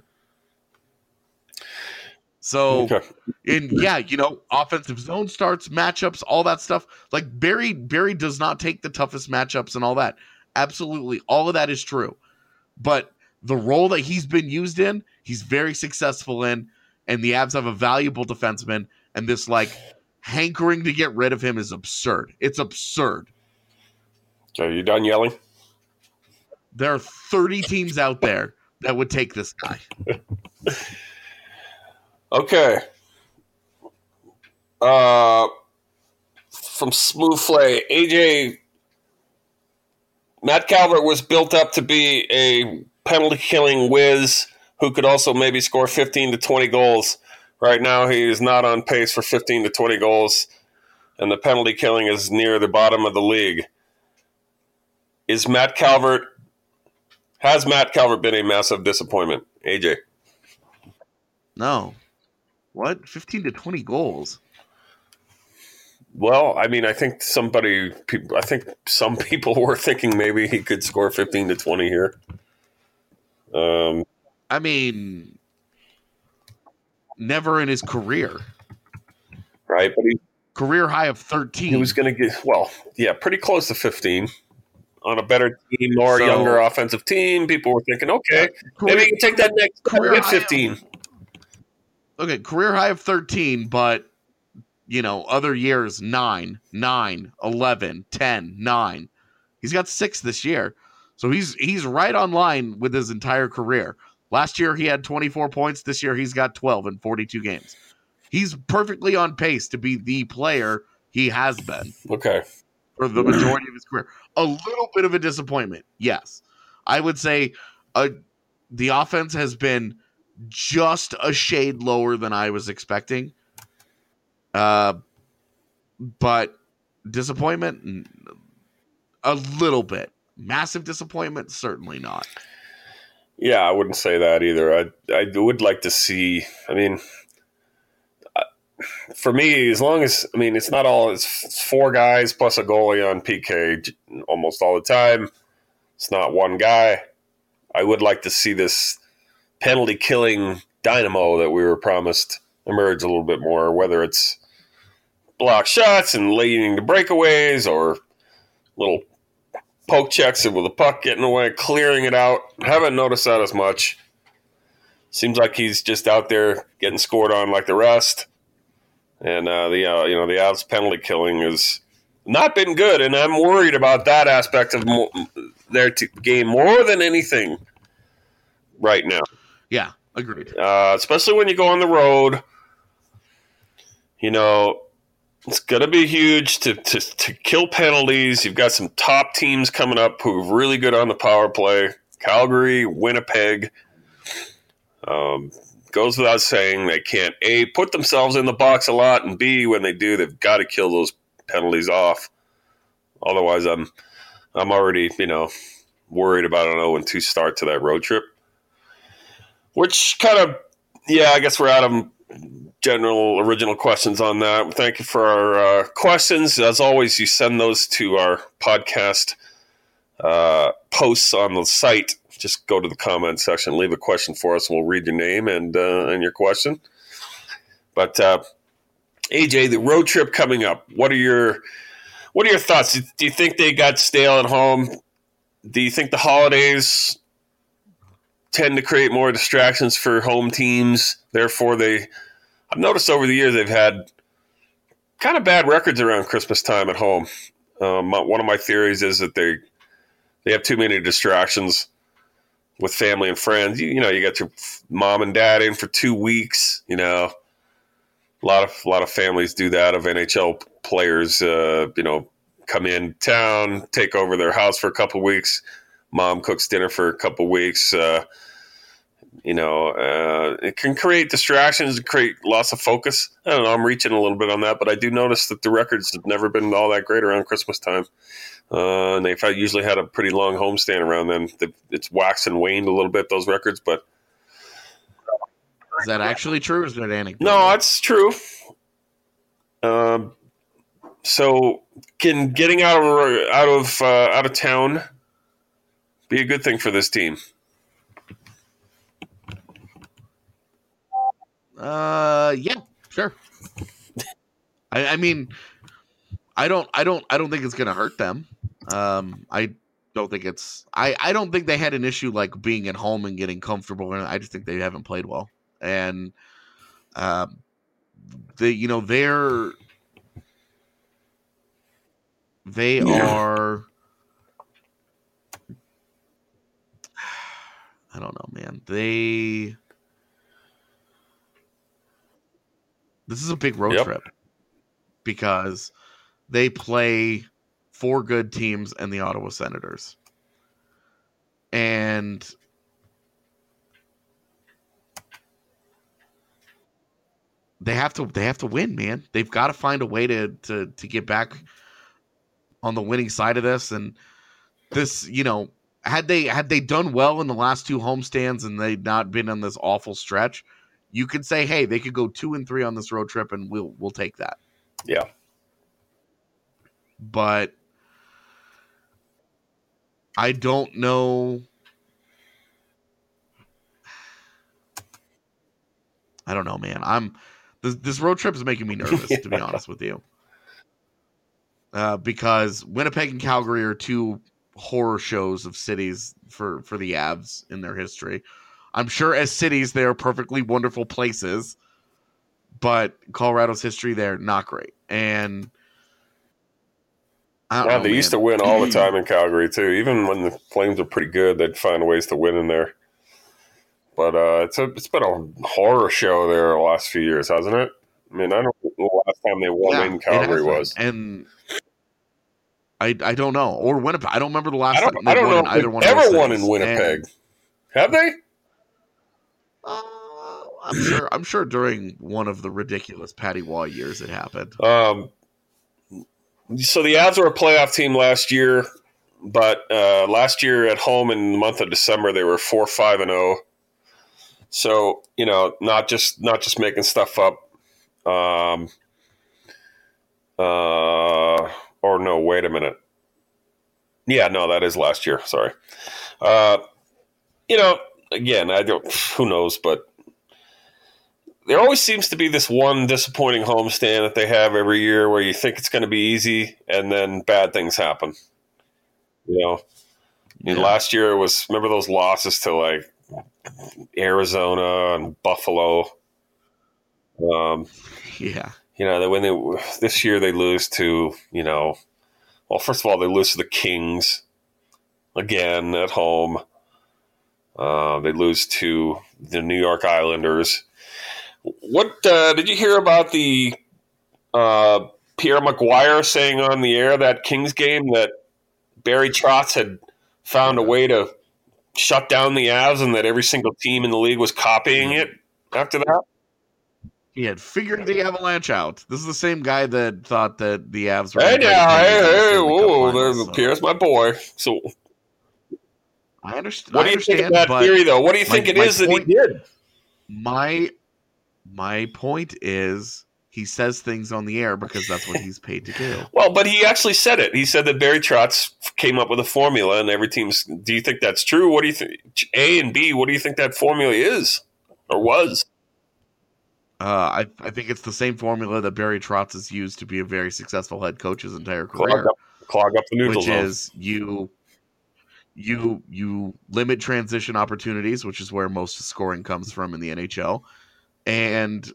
So, okay. in yeah, you know, offensive zone starts, matchups, all that stuff. Like Barrie, Barrie does not take the toughest matchups and all that. Absolutely, all of that is true. But the role that he's been used in, he's very successful in, and the Avs have a valuable defenseman, and this like hankering to get rid of him is absurd. It's absurd. So you done yelling? There are thirty teams out there that would take this guy. Okay. Uh, from Smooth Flay, A J, Matt Calvert was built up to be a penalty-killing whiz who could also maybe score fifteen to twenty goals. Right now, he is not on pace for fifteen to twenty goals, and the penalty killing is near the bottom of the league. Is Matt Calvert, has Matt Calvert been a massive disappointment? A J? No. What? fifteen to twenty goals? Well, I mean, I think somebody, I think some people were thinking maybe he could score fifteen to twenty here. Um, I mean, never in his career. Right, but he career high of thirteen. He was going to get well, yeah, pretty close to fifteen on a better team, more So- younger offensive team. People were thinking, okay, Career- maybe he can take that next step career and get high of- fifteen. Okay, career high of thirteen, but you know, other years nine, nine, eleven, ten, nine. He's got six this year. So he's he's right on line with his entire career. Last year he had twenty-four points. This year he's got twelve in forty-two games. He's perfectly on pace to be the player he has been Okay. for the majority of his career. A little bit of a disappointment, yes. I would say uh, the offense has been just a shade lower than I was expecting. Uh, but disappointment, N- a little bit. Massive disappointment, certainly not. Yeah, I wouldn't say that either. I I would like to see. I mean, I- for me, as long as I mean, it's not all. It's, it's four guys plus a goalie on P K j- almost all the time. It's not one guy. I would like to see this penalty killing dynamo that we were promised emerge a little bit more. Whether it's block shots and leading to breakaways or little poke checks with the puck getting away, clearing it out. Haven't noticed that as much. Seems like he's just out there getting scored on like the rest. And uh, the uh, you know the Avs penalty killing has not been good, and I'm worried about that aspect of mo- their t- game more than anything right now. Yeah, agreed. Uh, especially when you go on the road. You know, it's going to be huge to, to, to kill penalties. You've got some top teams coming up who are really good on the power play. Calgary, Winnipeg. Um, goes without saying they can't, A, put themselves in the box a lot, and B, when they do, they've got to kill those penalties off. Otherwise, I'm I'm already, you know, worried about an oh and two start to that road trip. Which kind of, yeah, I guess we're out of general original questions on that. Thank you for our uh, questions. As always, you send those to our podcast uh, posts on the site. Just go to the comment section, leave a question for us, and we'll read your name and uh, and your question. But uh, A J, the road trip coming up. What are your what are your thoughts? Do you think they got stale at home? Do you think the holidays tend to create more distractions for home teams? Therefore, they I've noticed over the years they've had kind of bad records around Christmas time at home. Um, one of my theories is that they they have too many distractions with family and friends. You, you know, you got your mom and dad in for two weeks. You know, a lot of a lot of families do that. Of N H L players, uh, you know, come in town, take over their house for a couple of weeks. Mom cooks dinner for a couple of weeks. Uh, you know, uh, it can create distractions, create loss of focus. I don't know. I'm reaching a little bit on that, but I do notice that the records have never been all that great around Christmas time. Uh, and they've had, usually had a pretty long homestand around then. It's waxed and waned a little bit, those records, but Is that actually true, or is that anecdotal? no, that's true. Um, so can getting out of out of uh, out of town be a good thing for this team? Uh, yeah, sure. I, I mean, I don't, I don't, I don't think it's gonna hurt them. Um, I don't think it's. I, I don't think they had an issue like being at home and getting comfortable. And I just think they haven't played well. And, um, they, you know, they're they Yeah. are. I don't know, man. They. This is a big road Yep. trip because they play four good teams and the Ottawa Senators. And they have to they have to win, man. They've got to find a way to to to get back on the winning side of this. And this, you know, had they had they done well in the last two homestands and they'd not been on this awful stretch, you could say, hey, they could go two and three on this road trip, and we'll we'll take that. Yeah. But I don't know. I don't know, man. I'm this, this road trip is making me nervous, yeah. to be honest with you. Uh, because Winnipeg and Calgary are two horror shows of cities for, for the Avs in their history. I'm sure as cities, they are perfectly wonderful places, but Colorado's history, they're not great. And I don't yeah, know, they man. used to win all the time in Calgary, too. Even when the Flames are pretty good, they'd find ways to win in there. But uh, it's a, it's been a horror show there the last few years, hasn't it? I mean, I don't know the last time they won Yeah, in Calgary was. And I I don't know. Or Winnipeg. I don't remember the last I don't, time they I don't won know in if either they've one of ever those won in cities. Winnipeg. And, Have they? uh, I'm sure I'm sure during one of the ridiculous Patty Waugh years it happened. Um, so the Avs were a playoff team last year, but uh, last year at home in the month of December they were four five and oh. So, you know, not just not just making stuff up. Um, uh, or no, wait a minute. Yeah, no, that is last year. Sorry. Uh, you know, again, I don't. Who knows? But there always seems to be this one disappointing homestand that they have every year, where you think it's going to be easy, and then bad things happen. You know, I mean, Yeah. last year it was. Remember those losses to like Arizona and Buffalo. Um, Yeah. you know, that when they this year they lose to, you know, well, first of all, they lose to the Kings again at home. Uh, they lose to the New York Islanders. What uh, did you hear about the uh, Pierre McGuire saying on the air that Kings game that Barry Trotz had found a way to shut down the Avs and that every single team in the league was copying it after that? He had figured the Avalanche out. This is the same guy that thought that the Avs were. Hey gonna now, break hey, the hey, Stanley Cup whoa, Finals, there's so. Pierre's my boy. So I understand. what do I you think of understand, that but theory, though? What do you my- think it my is that he point- did? My my point is he says things on the air because that's what he's paid to do. Well, but he actually said it. He said that Barry Trotz came up with a formula, and every team's. Do you think that's true? What do you think? A and B. What do you think that formula is or was? Uh, I I think it's the same formula that Barry Trotz has used to be a very successful head coach his entire Clog career, up, clog up the neutral which zone. is you you you limit transition opportunities, which is where most scoring comes from in the N H L, and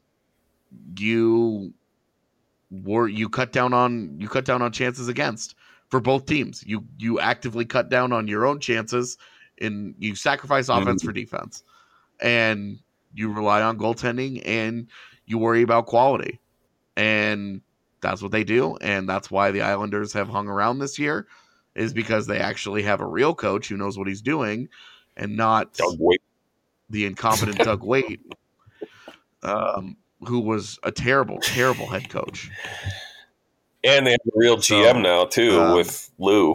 you were you cut down on you cut down on chances against for both teams. You you actively cut down on your own chances, and you sacrifice offense for defense, and you rely on goaltending, and you worry about quality, and that's what they do, and that's why the Islanders have hung around this year, is because they actually have a real coach who knows what he's doing, and not Doug Waite. the incompetent Doug Waite, um, who was a terrible, terrible head coach. And they have a real G M So, now too um, with Lou.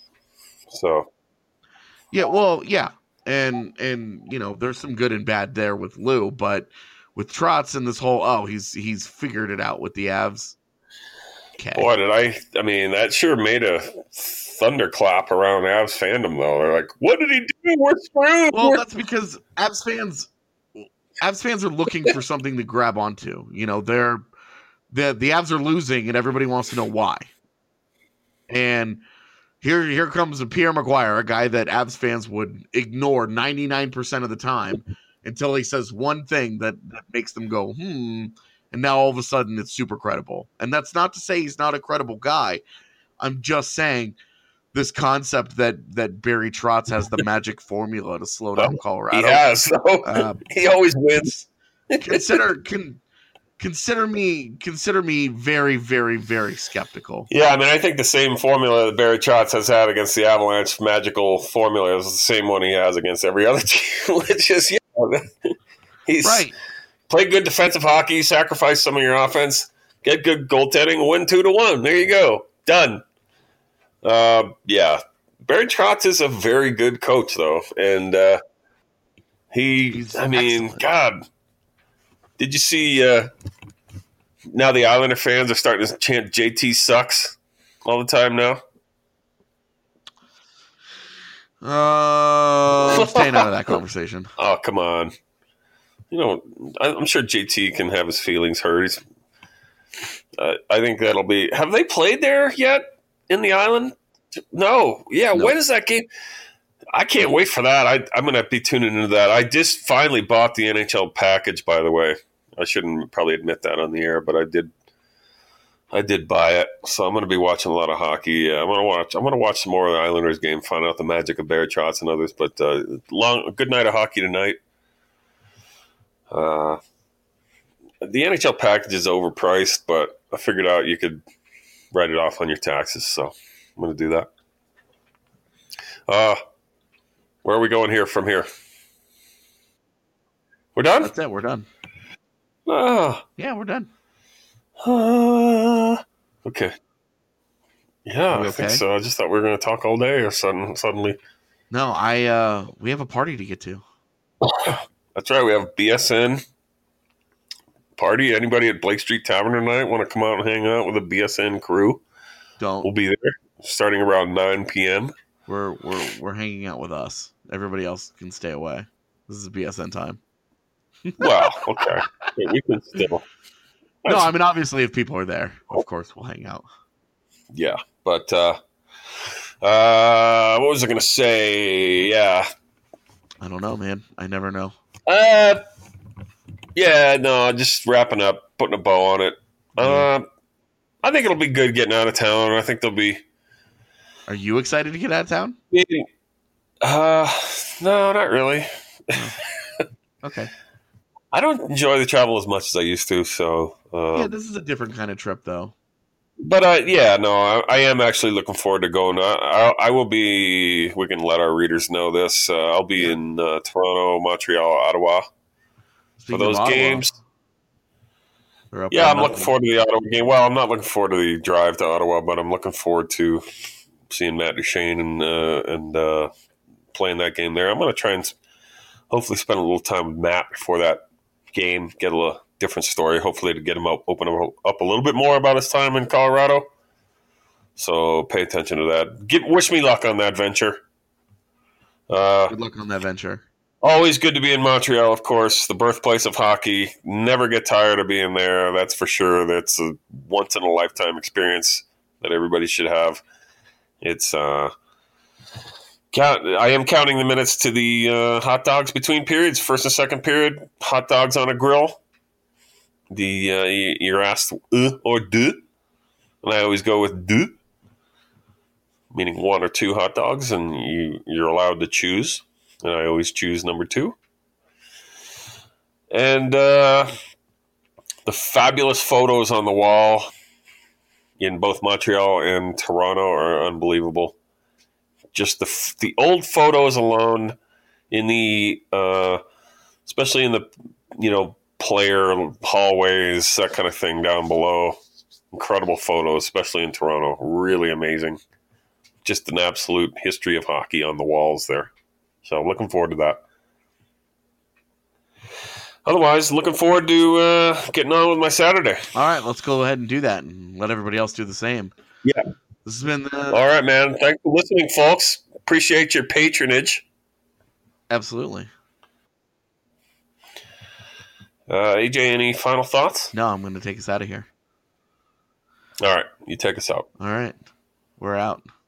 So Yeah, well, yeah, and and you know, there's some good and bad there with Lou, but with Trotz and this whole oh, he's he's figured it out with the Avs. Okay, boy, did I! I mean, that sure made a thunderclap around Avs fandom, though. They're like, "What did he do? We're screwed." well, We're that's because Avs fans, Avs fans are looking for something to grab onto. You know, they're the the Avs are losing, and everybody wants to know why. And here here comes a Pierre McGuire, a guy that Avs fans would ignore ninety-nine percent of the time until he says one thing that, that makes them go, hmm, and now all of a sudden it's super credible. And that's not to say he's not a credible guy. I'm just saying this concept that that Barry Trotz has the magic formula to slow down Colorado. he has. So Uh, he always wins. consider can consider me consider me very very very skeptical. Yeah, I mean, I think the same formula that Barry Trotz has had against the Avalanche, magical formula, is the same one he has against every other team, which is, yeah, he's Right. play good defensive hockey, sacrifice some of your offense, get good goaltending, win two to one. There you go. Done. Uh, yeah. Barry Trotz is a very good coach, though. And uh, he, He's I mean, excellent. God, did you see uh, now the Islander fans are starting to chant J T sucks all the time now? Uh, I'm staying out of that conversation. Oh, come on. you know, I'm sure J T can have his feelings hurt. He's, uh, I think that'll be. Have they played there yet in the island? No. Yeah. No. When is that game? I can't wait for that. I, I'm going to be tuning into that. I just finally bought the N H L package, by the way. I shouldn't probably admit that on the air, but I did. I did buy it, so I'm going to be watching a lot of hockey. Yeah, I'm going to watch. I'm going to watch some more of the Islanders game, find out the magic of Bear Trotz and others. But uh, long, good night of hockey tonight. Uh, the N H L package is overpriced, but I figured out you could write it off on your taxes, so I'm going to do that. Uh, where are we going here from here? We're done? That's it. We're done. Ah. Yeah, we're done. Uh, okay. Yeah, Are we I think okay? so. I just thought we were going to talk all day or sudden, suddenly. No, I. Uh, we have a party to get to. That's right. We have B S N party. Anybody at Blake Street Tavern tonight want to come out and hang out with the B S N crew? Don't. We'll be there starting around nine p.m. We're we're we're hanging out with us. Everybody else can stay away. This is B S N time. Well, okay. We can still. No, I mean, obviously, if people are there, of course, we'll hang out. Yeah, but uh, uh, what was I going to say? Yeah, I don't know, man. I never know. uh, yeah, no, just wrapping up, putting a bow on it. Uh, I think it'll be good getting out of town. I think there'll be. Are you excited to get out of town? Uh, no, not really. Okay. I don't enjoy the travel as much as I used to, so. Uh, Yeah, this is a different kind of trip, though. But uh, yeah, no, I, I am actually looking forward to going. I, I, I will be. We can let our readers know this. Uh, I'll be in uh, Toronto, Montreal, Ottawa Speaking for those of Ottawa, games. they're up Yeah, one I'm looking nothing. forward to the Ottawa game. Well, I'm not looking forward to the drive to Ottawa, but I'm looking forward to seeing Matt Duchene and uh, and uh, playing that game there. I'm going to try and hopefully spend a little time with Matt before that game, get a little different story, hopefully to get him up, open him up a little bit more about his time in Colorado. So pay attention to that. Give, wish me luck on that venture. Uh, Good luck on that venture. always good to be in Montreal, of course, the birthplace of hockey. Never get tired of being there, that's for sure. That's a once-in-a-lifetime experience that everybody should have. It's uh, count, I am counting the minutes to the uh, hot dogs between periods, first and second period, hot dogs on a grill. The uh, you're asked uh, or deux, and I always go with deux, meaning one or two hot dogs, and you, you're allowed to choose, and I always choose number two. And uh, the fabulous photos on the wall in both Montreal and Toronto are unbelievable. Just the the old photos alone, in the uh, especially in the you know player hallways, that kind of thing down below. Incredible photos, especially in Toronto. Really amazing. Just an absolute history of hockey on the walls there. So looking forward to that. Otherwise, looking forward to uh, getting on with my Saturday. All right, let's go ahead and do that and let everybody else do the same. Yeah. This has been the... All right, man. Thanks for listening, folks. Appreciate your patronage. Absolutely. Uh, A J, any final thoughts? No, I'm going to take us out of here. All right. You take us out. All right. We're out.